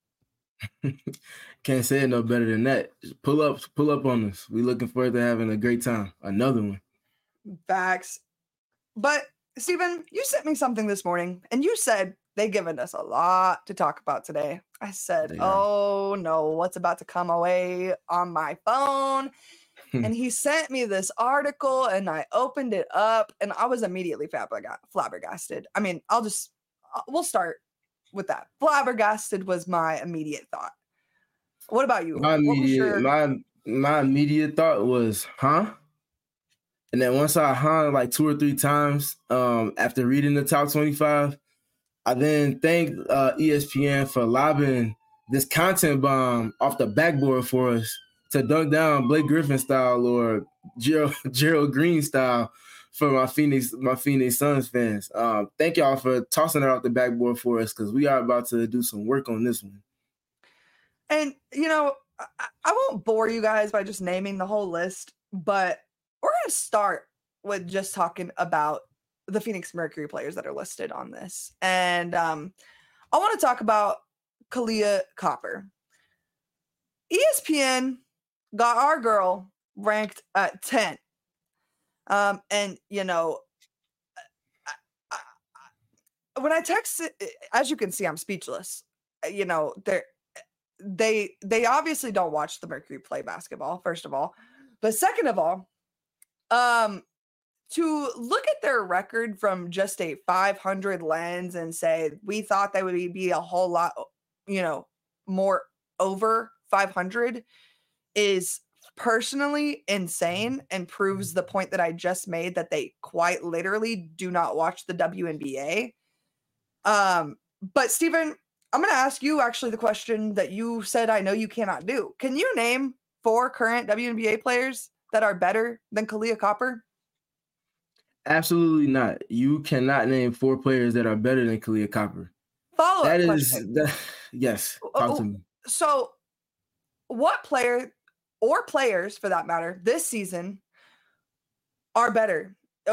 Can't say it no better than that. Just pull up on us. We looking forward to having a great time. Another one. Facts. But Steven, you sent me something this morning and you said they've given us a lot to talk about today. I said, oh no, what's about to come away on my phone? And he sent me this article and I opened it up and I was immediately flabbergasted. I mean, we'll start with that. Flabbergasted was my immediate thought. What about you? My immediate thought was, huh? And then once I hung like 2 or 3 times after reading the top 25, I then thanked ESPN for lobbing this content bomb off the backboard for us to dunk down Blake Griffin style or Gerald Green style for my Phoenix Suns fans. Thank y'all for tossing it off the backboard for us because we are about to do some work on this one. And, I won't bore you guys by just naming the whole list, but we're going to start with just talking about the Phoenix Mercury players that are listed on this. And I want to talk about Kahleah Copper. ESPN got our girl ranked at 10. And, you know, when I text it, as you can see, I'm speechless. You know, they obviously don't watch the Mercury play basketball, first of all. But second of all, to look at their record from just a 500 lens and say, we thought they would be a whole lot, you know, more over 500 is personally insane and proves the point that I just made, that they quite literally do not watch the WNBA. But Stephen, I'm going to ask you actually the question that you said I know you cannot do. Can you name 4 current WNBA players that are better than Kahleah Copper? Absolutely not. You cannot name 4 players that are better than Kahleah Copper. Follow-up question. Yes, talk to me. So what player or players for that matter this season are better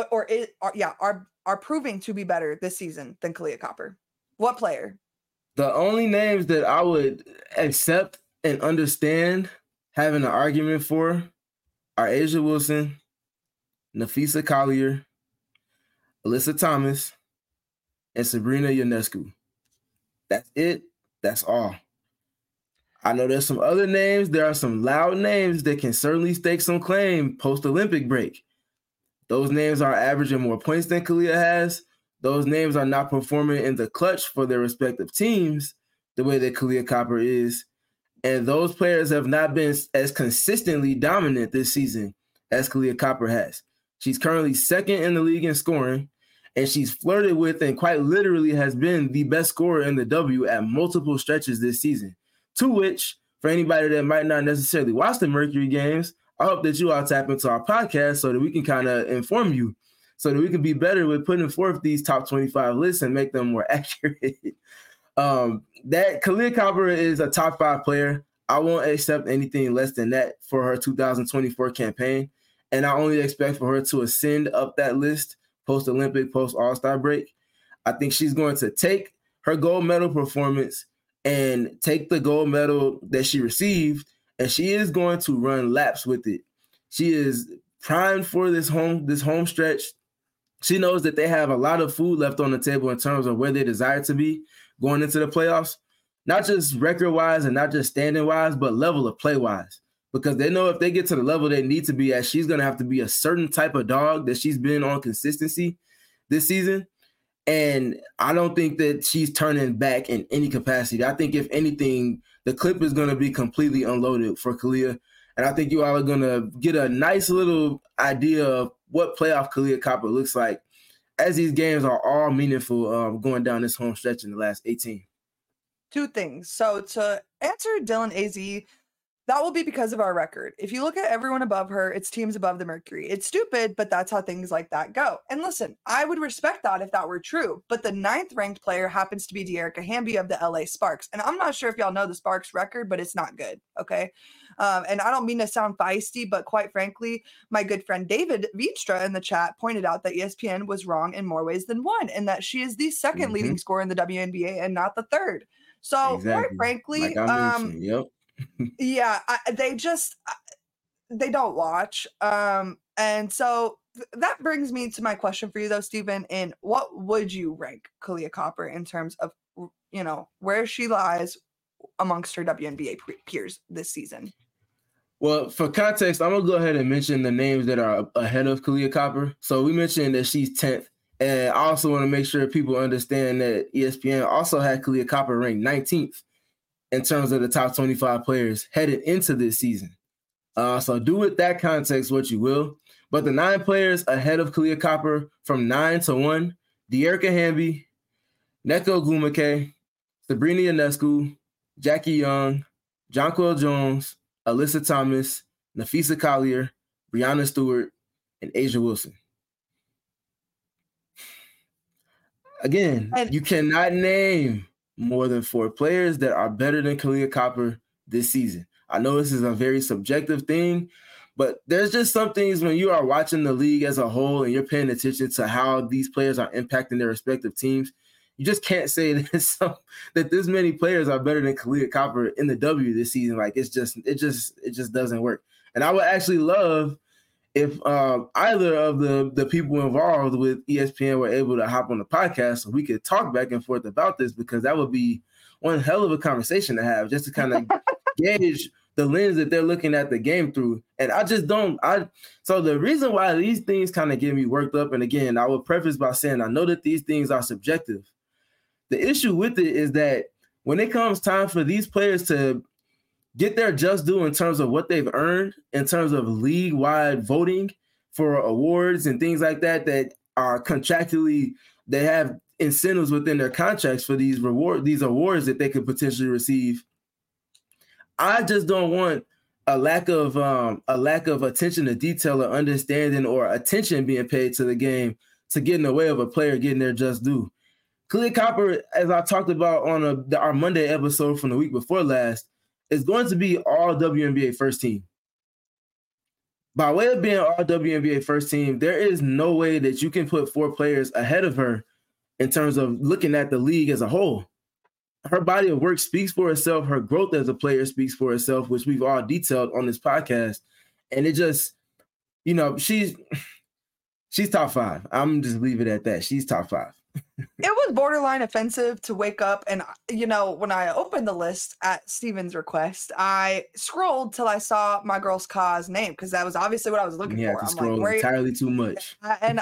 are proving to be better this season than Kahleah Copper? What player? The only names that I would accept and understand having an argument for are A'ja Wilson, Napheesa Collier, Alyssa Thomas, and Sabrina Ionescu. That's it. That's all. I know there's some other names. There are some loud names that can certainly stake some claim post-Olympic break. Those names are averaging more points than Kahleah has. Those names are not performing in the clutch for their respective teams the way that Kahleah Copper is. And those players have not been as consistently dominant this season as Kahleah Copper has. She's currently second in the league in scoring, and she's flirted with and quite literally has been the best scorer in the W at multiple stretches this season. To which, for anybody that might not necessarily watch the Mercury games, I hope that you all tap into our podcast so that we can kind of inform you, so that we can be better with putting forth these top 25 lists and make them more accurate. That Kahleah Copper is a top 5 player. I won't accept anything less than that for her 2024 campaign. And I only expect for her to ascend up that list post-Olympic, post-All-Star break. I think she's going to take her gold medal performance and take the gold medal that she received, and she is going to run laps with it. She is primed for this home stretch. She knows that they have a lot of food left on the table in terms of where they desire to be going into the playoffs, not just record-wise and not just standing-wise, but level of play-wise, because they know if they get to the level they need to be at, she's going to have to be a certain type of dog that she's been on consistency this season. And I don't think that she's turning back in any capacity. I think, if anything, the clip is going to be completely unloaded for Kahleah. And I think you all are going to get a nice little idea of what playoff Kahleah Copper looks like as these games are all meaningful going down this home stretch in the last 18. 2 things. So to answer Dylan AZ, that will be because of our record. If you look at everyone above her, it's teams above the Mercury. It's stupid, but that's how things like that go. And listen, I would respect that if that were true, but the 9th ranked player happens to be Dearica Hamby of the LA Sparks. And I'm not sure if y'all know the Sparks record, but it's not good, okay? And I don't mean to sound feisty, but quite frankly, my good friend David Veenstra in the chat pointed out that ESPN was wrong in more ways than one, and that she is the 2nd leading scorer in the WNBA and not the 3rd. So quite frankly, yep. Yeah, they don't watch. And so that brings me to my question for you though, Stephen, in what would you rank Kahleah Copper in terms of, you know, where she lies amongst her WNBA peers this season? Well, for context, I'm going to go ahead and mention the names that are ahead of Kahleah Copper. So we mentioned that she's 10th. And I also want to make sure people understand that ESPN also had Kahleah Copper ranked 19th. In terms of the top 25 players headed into this season. So do with that context what you will. But the 9 players ahead of Kahleah Copper from 9 to 1, Dearica Hamby, Nneka Ogwumike, Sabrina Ionescu, Jackie Young, Jonquel Jones, Alyssa Thomas, Napheesa Collier, Breanna Stewart, and A'ja Wilson. Again, you cannot name more than 4 players that are better than Kahleah Copper this season. I know this is a very subjective thing, but there's just some things when you are watching the league as a whole and you're paying attention to how these players are impacting their respective teams. You just can't say that this many players are better than Kahleah Copper in the W this season. Like it just doesn't work. And I would actually love if either of the people involved with ESPN were able to hop on the podcast so we could talk back and forth about this, because that would be one hell of a conversation to have, just to kind of gauge the lens that they're looking at the game through. And I just don't. So the reason why these things kind of get me worked up, and again, I would preface by saying I know that these things are subjective. The issue with it is that when it comes time for these players to get their just due in terms of what they've earned, in terms of league-wide voting for awards and things like that, that are contractually, they have incentives within their contracts for these awards that they could potentially receive. I just don't want a lack of attention to detail or understanding or attention being paid to the game to get in the way of a player getting their just due. Kahleah Copper, as I talked about on our Monday episode from the week before last, is going to be all WNBA first team. By way of being all WNBA first team, there is no way that you can put 4 players ahead of her in terms of looking at the league as a whole. Her body of work speaks for itself. Her growth as a player speaks for itself, which we've all detailed on this podcast. And it just, she's top 5. I'm just leave it at that. She's top 5. It was borderline offensive to wake up and, when I opened the list at Steven's request, I scrolled till I saw my girl's Ka's name, because that was obviously what I was looking for. I'm scroll like, entirely too much. And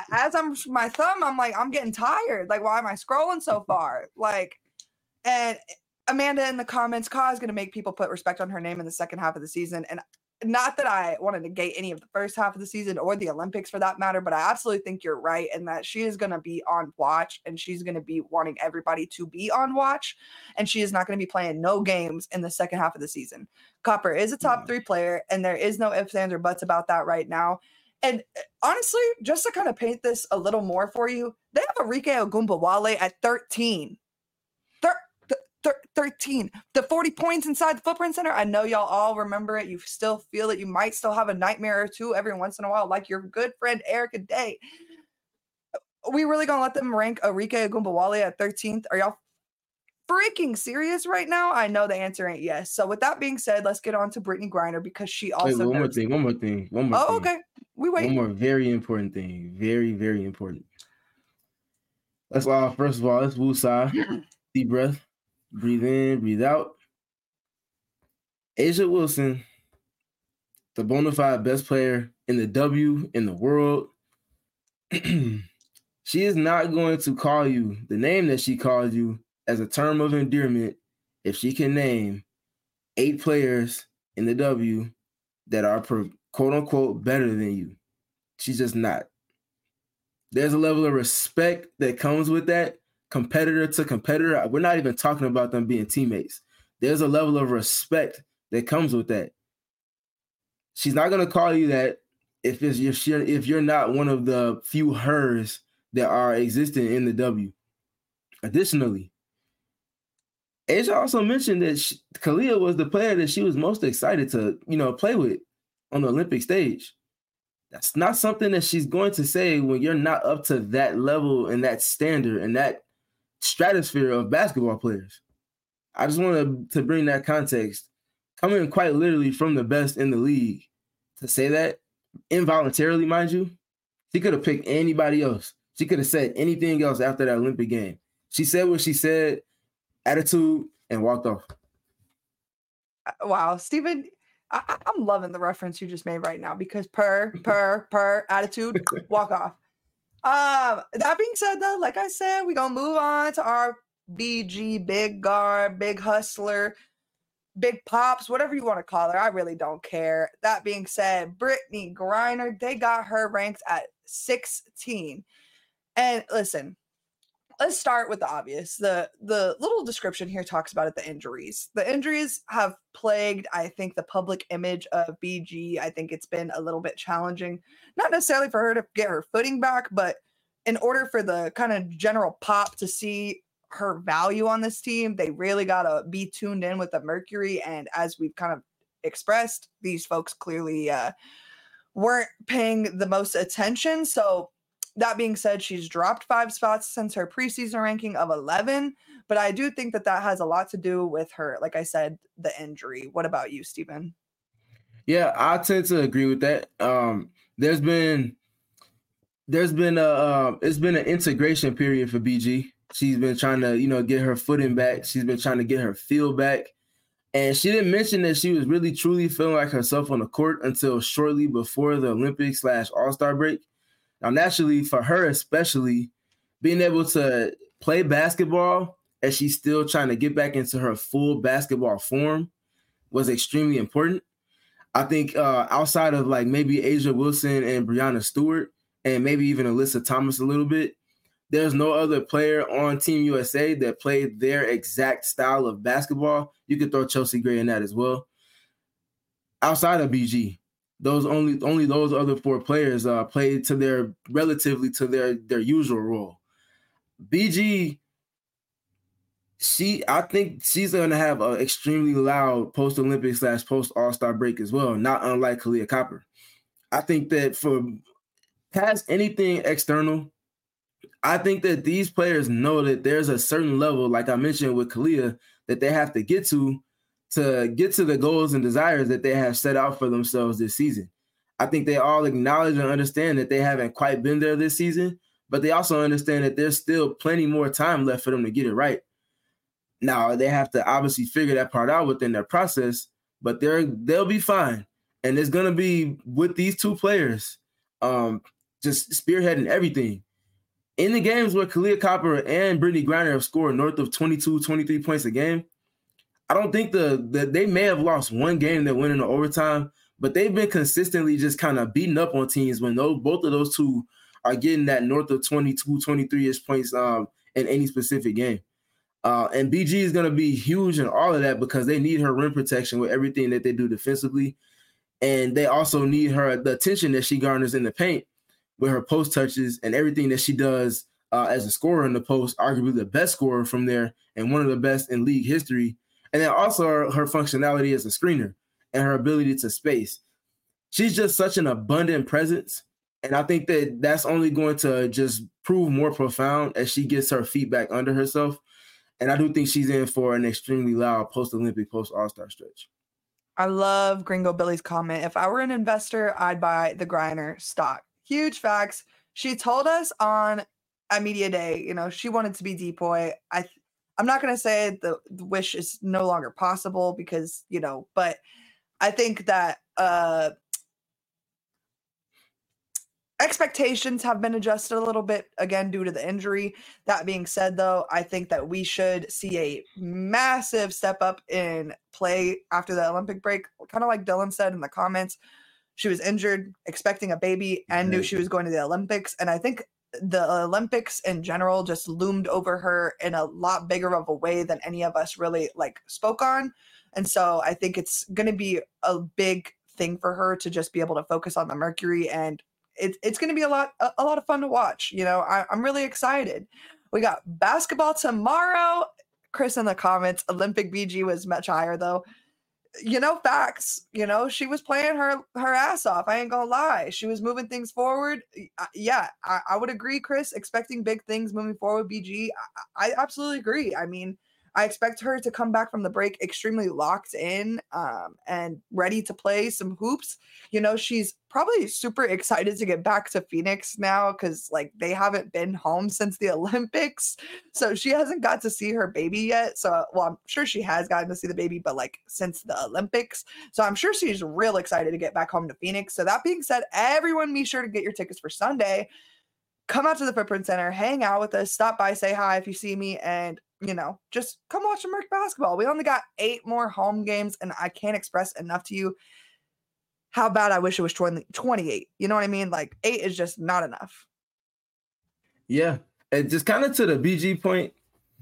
I'm getting tired. Like, why am I scrolling so far? Like, and Amanda in the comments, Ka is going to make people put respect on her name in the second half of the season. And not that I want to negate any of the first half of the season or the Olympics for that matter, but I absolutely think you're right in that she is going to be on watch, and she's going to be wanting everybody to be on watch, and she is not going to be playing no games in the second half of the season. Copper is a top 3 player, and there is no ifs, ands, or buts about that right now. And honestly, just to kind of paint this a little more for you, they have Arike Ogunbowale at 13. 13, the 40 points inside the Footprint Center. I know y'all all remember it. You still feel it. You might still have a nightmare or two every once in a while, like your good friend Erica Day. We really gonna let them rank Arike Ogunbowale at 13th? Are y'all freaking serious right now? I know the answer ain't yes. So with that being said, let's get on to Brittney Griner, because she also. Wait, one more thing. Okay. We wait. One more very important thing. Very, very important. First of all, let's woosah. Deep breath. Breathe in, breathe out. A'ja Wilson, the bona fide best player in the W in the world. She is not going to call you the name that she called you as a term of endearment if she can name 8 players in the W that are quote unquote better than you. She's just not. There's a level of respect that comes with that. Competitor to competitor, we're not even talking about them being teammates. There's a level of respect that comes with that. She's not going to call you that if you're not one of the few hers that are existing in the W. Additionally, A'ja also mentioned that Kahleah was the player that she was most excited to, play with on the Olympic stage. That's not something that she's going to say when you're not up to that level and that standard and that stratosphere of basketball players. I just wanted to bring that context, coming quite literally from the best in the league, to say that involuntarily, mind you. She could have picked anybody else. She could have said anything else after that Olympic game. She said what she said, attitude, and walked off. Wow, Steven, I'm loving the reference you just made right now, because per attitude, walk off. That being said, though, like I said, we're going to move on to our BG, big guard, big hustler, big pops, whatever you want to call her. I really don't care. That being said, Brittney Griner, they got her ranked at 16. And listen, let's start with the obvious. The little description here talks about it, the injuries. The injuries have plagued, I think, the public image of BG. I think it's been a little bit challenging, not necessarily for her to get her footing back, but in order for the kind of general pop to see her value on this team, they really got to be tuned in with the Mercury. And as we've kind of expressed, these folks clearly weren't paying the most attention. So that being said, she's dropped 5 spots since her preseason ranking of 11. But I do think that that has a lot to do with her, like I said, the injury. What about you, Stephen? Yeah, I tend to agree with that. There's been it's been an integration period for BG. She's been trying to, get her footing back. She's been trying to get her feel back. And she didn't mention that she was really truly feeling like herself on the court until shortly before the Olympics / All-Star break. Now, naturally, for her especially, being able to play basketball as she's still trying to get back into her full basketball form was extremely important. I think outside of like maybe Asia Wilson and Brianna Stewart and maybe even Alyssa Thomas a little bit, there's no other player on Team USA that played their exact style of basketball. You could throw Chelsea Gray in that as well. Outside of BG, those only those other 4 players played to their usual role. BG, I think she's going to have an extremely loud post-Olympics / post-All-Star break as well, not unlike Kahleah Copper. I think that for past anything external, I think that these players know that there's a certain level, like I mentioned with Kahleah, that they have to get to get to the goals and desires that they have set out for themselves this season. I think they all acknowledge and understand that they haven't quite been there this season, but they also understand that there's still plenty more time left for them to get it right. Now, they have to obviously figure that part out within their process, but they'll be fine. And it's going to be with these 2 players just spearheading everything. In the games where Kahleah Copper and Brittney Griner have scored north of 22, 23 points a game, I don't think they may have lost one game that went into overtime, but they've been consistently just kind of beating up on teams when both of those 2 are getting that north of 22, 23-ish points in any specific game. And BG is going to be huge in all of that because they need her rim protection with everything that they do defensively. And they also need the attention that she garners in the paint with her post touches and everything that she does as a scorer in the post, arguably the best scorer from there and one of the best in league history. And then also her functionality as a screener and her ability to space. She's just such an abundant presence. And I think that that's only going to just prove more profound as she gets her feet back under herself. And I do think she's in for an extremely loud post-Olympic, post-All-Star stretch. I love Gringo Billy's comment. If I were an investor, I'd buy the Griner stock. Huge facts. She told us on a media day, she wanted to be Depoy. I'm not going to say the wish is no longer possible because, but I think that expectations have been adjusted a little bit, again, due to the injury. That being said, though, I think that we should see a massive step up in play after the Olympic break. Kind of like Dylan said in the comments, she was injured, expecting a baby, and knew she was going to the Olympics. And I think the Olympics in general just loomed over her in a lot bigger of a way than any of us really spoke on. And so I think it's going to be a big thing for her to just be able to focus on the Mercury, and it's going to be a lot of fun to watch. I'm really excited. We got basketball tomorrow. Chris in the comments, Olympic BG was much higher though. Facts. She was playing her ass off. I ain't gonna lie. She was moving things forward. Yeah, I would agree, Chris. Expecting big things moving forward, BG. I absolutely agree. I mean, I expect her to come back from the break extremely locked in and ready to play some hoops. She's probably super excited to get back to Phoenix now because they haven't been home since the Olympics. So she hasn't got to see her baby yet. So, I'm sure she has gotten to see the baby, but since the Olympics. So I'm sure she's real excited to get back home to Phoenix. So that being said, everyone be sure to get your tickets for Sunday. Come out to the Footprint Center, hang out with us, stop by, say hi if you see me, and just come watch the Merc basketball. We only got 8 more home games, and I can't express enough to you how bad I wish it was 28. You know what I mean? 8 is just not enough. Yeah. And just kind of to the BG point,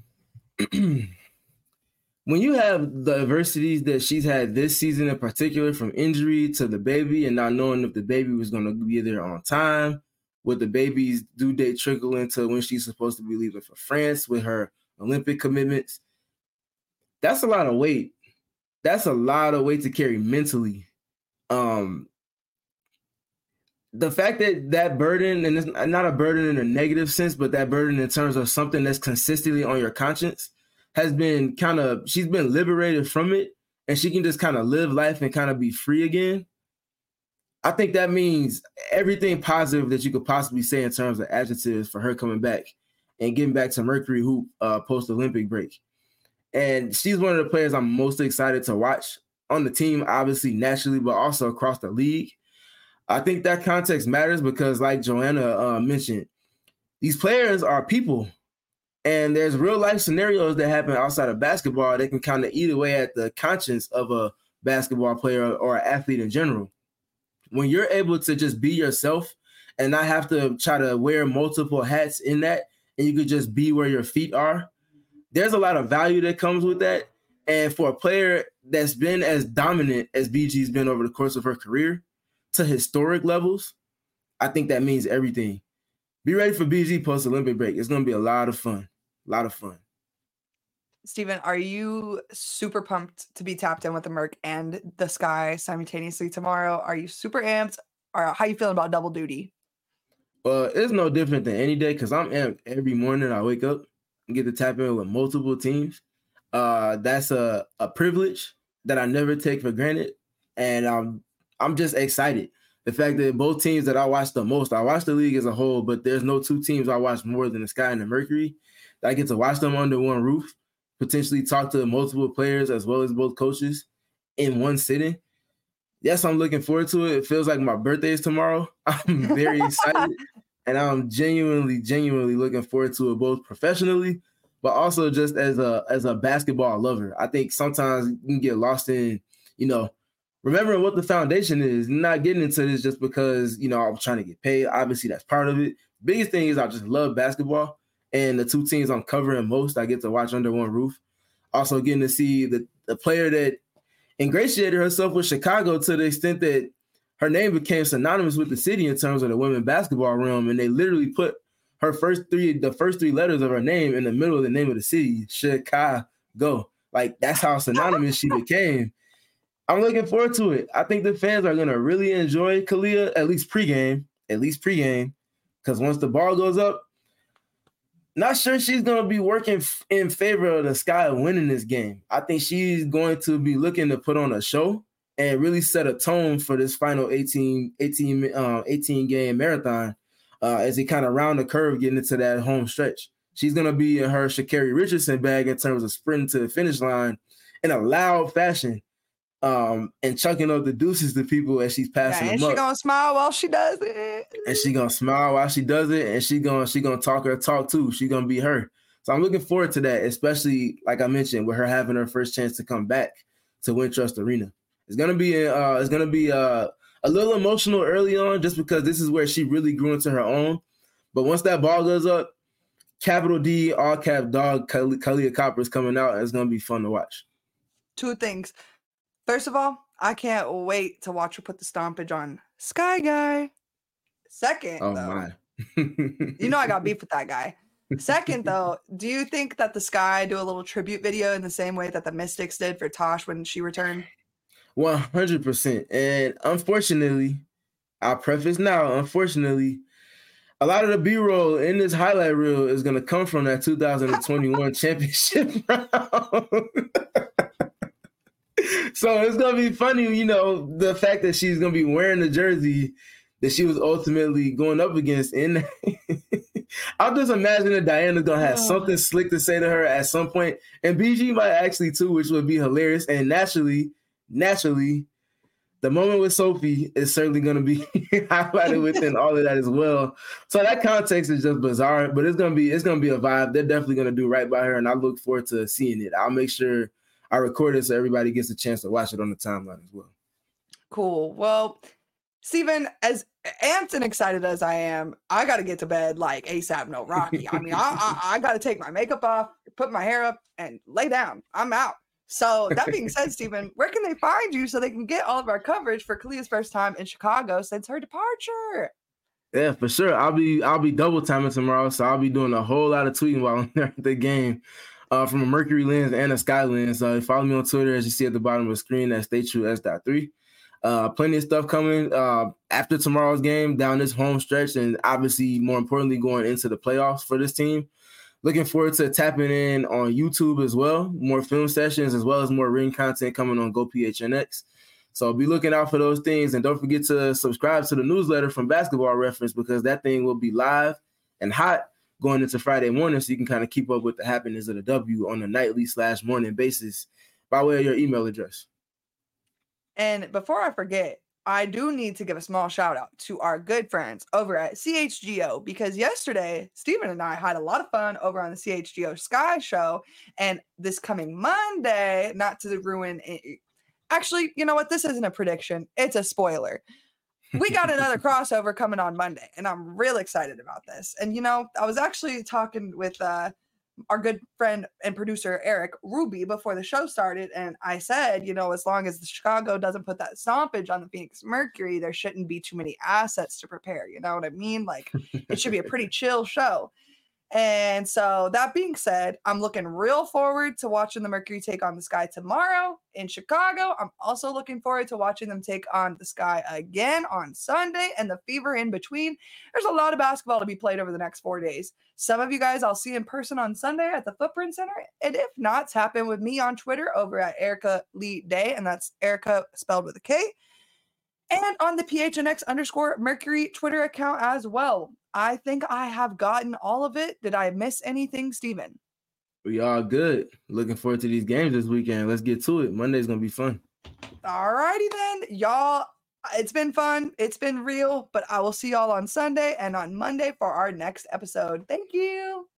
when you have the adversities that she's had this season in particular, from injury to the baby and not knowing if the baby was going to be there on time, with the baby's due date trickle into when she's supposed to be leaving for France with her Olympic commitments, that's a lot of weight that's a lot of weight to carry mentally. The fact that burden, and it's not a burden in a negative sense, but that burden in terms of something that's consistently on your conscience has been she's been liberated from it, and she can just kind of live life and kind of be free again. I think that means everything positive that you could possibly say in terms of adjectives for her coming back and getting back to Mercury Hoop post-Olympic break. And she's one of the players I'm most excited to watch on the team, obviously, naturally, but also across the league. I think that context matters because, like Joanna mentioned, these players are people. And there's real-life scenarios that happen outside of basketball that can kind of eat away at the conscience of a basketball player or an athlete in general. When you're able to just be yourself and not have to try to wear multiple hats in that, and you could just be where your feet are, there's a lot of value that comes with that. And for a player that's been as dominant as BG's been over the course of her career to historic levels, I think that means everything. Be ready for BG post-Olympic break. It's going to be a lot of fun. A lot of fun. Steven, are you super pumped to be tapped in with the Merc and the Sky simultaneously tomorrow? Are you super amped? Or how you feeling about double duty? It's no different than any day because I'm amped every morning. I wake up and get to tap in with multiple teams. That's a privilege that I never take for granted. And I'm just excited. The fact that both teams that I watch the most, I watch the league as a whole, but there's no two teams I watch more than the Sky and the Mercury. I get to watch them under one roof, potentially talk to multiple players as well as both coaches in one sitting. Yes, I'm looking forward to it. It feels like my birthday is tomorrow. I'm very excited, and I'm genuinely looking forward to it, both professionally, but also just as a basketball lover. I think sometimes you can get lost in, remembering what the foundation is, not getting into this just because, I'm trying to get paid. Obviously, that's part of it. Biggest thing is I just love basketball, and the two teams I'm covering most, I get to watch under one roof. Also getting to see the player that ingratiated herself with Chicago to the extent that her name became synonymous with the city in terms of the women's basketball realm, and they literally put the first three letters of her name in the middle of the name of the city, Chicago. Like, that's how synonymous she became. I'm looking forward to it. I think the fans are going to really enjoy Kalia, at least pregame, because once the ball goes up, not sure she's going to be working in favor of the Sky winning this game. I think she's going to be looking to put on a show and really set a tone for this final 18-game marathon as they kind of round the curve getting into that home stretch. She's going to be in her Sha'Carri Richardson bag in terms of sprinting to the finish line in a loud fashion. And chucking up the deuces to people as she's passing them up. And she's gonna smile while she does it. And she's gonna smile while she does it, and she's gonna talk her talk too. She's gonna be her. So I'm looking forward to that, especially like I mentioned, with her having her first chance to come back to Wintrust Arena. It's gonna be a little emotional early on, just because this is where she really grew into her own. But once that ball goes up, capital D, all cap dog, Kahleah Copper is coming out, and it's gonna be fun to watch. Two things. First of all, I can't wait to watch her put the stompage on Sky Guy. Second, my. I got beef with that guy. Second, though, do you think that the Sky do a little tribute video in the same way that the Mystics did for Tosh when she returned? 100%. And unfortunately, I'll preface now, unfortunately, a lot of the B-roll in this highlight reel is going to come from that 2021 championship round. So it's going to be funny, the fact that she's going to be wearing the jersey that she was ultimately going up against. I'll just imagine that Diana's going to have something slick to say to her at some point. And BG might actually too, which would be hilarious. And naturally, the moment with Sophie is certainly going to be highlighted within all of that as well. So that context is just bizarre, but it's going to be a vibe. They're definitely going to do right by her, and I look forward to seeing it. I'll make sure I record it so everybody gets a chance to watch it on the timeline as well. Cool. Well, Steven, as amped and excited as I am, I got to get to bed like ASAP No Rocky. I mean, I got to take my makeup off, put my hair up, and lay down. I'm out. So that being said, Steven, where can they find you so they can get all of our coverage for Kahleah's first time in Chicago since her departure? Yeah, for sure. I'll be double timing tomorrow, so I'll be doing a whole lot of tweeting while I'm there at the game. from a Mercury lens and a Sky lens. Follow me on Twitter, as you see at the bottom of the screen, at StayTrueS.3. Plenty of stuff coming after tomorrow's game down this home stretch, and obviously, more importantly, going into the playoffs for this team. Looking forward to tapping in on YouTube as well. More film sessions as well as more ring content coming on GoPHNX. So be looking out for those things. And don't forget to subscribe to the newsletter from Basketball Reference, because that thing will be live and hot going into Friday morning, so you can kind of keep up with the happenings of the W on a nightly/morning basis by way of your email address. And before I forget, I do need to give a small shout out to our good friends over at CHGO, because yesterday, Steven and I had a lot of fun over on the CHGO Sky Show. And this coming Monday, not to ruin it, actually, you know what? This isn't a prediction. It's a spoiler. We got another crossover coming on Monday, and I'm real excited about this. And, you know, I was actually talking with our good friend and producer, Eric Ruby, before the show started. And I said, you know, as long as the Chicago doesn't put that stompage on the Phoenix Mercury, there shouldn't be too many assets to prepare. You know what I mean? Like, it should be a pretty chill show. And so that being said, I'm looking real forward to watching the Mercury take on the Sky tomorrow in Chicago. I'm also looking forward to watching them take on the Sky again on Sunday and the Fever in between. There's a lot of basketball to be played over the next 4 days. Some of you guys I'll see in person on Sunday at the Footprint Center. And if not, tap in with me on Twitter over at Erica Lee Day. And that's Erica spelled with a K. And on the PHNX_Mercury Twitter account as well. I think I have gotten all of it. Did I miss anything, Steven? We all good. Looking forward to these games this weekend. Let's get to it. Monday's going to be fun. All righty then. Y'all, it's been fun. It's been real. But I will see y'all on Sunday and on Monday for our next episode. Thank you.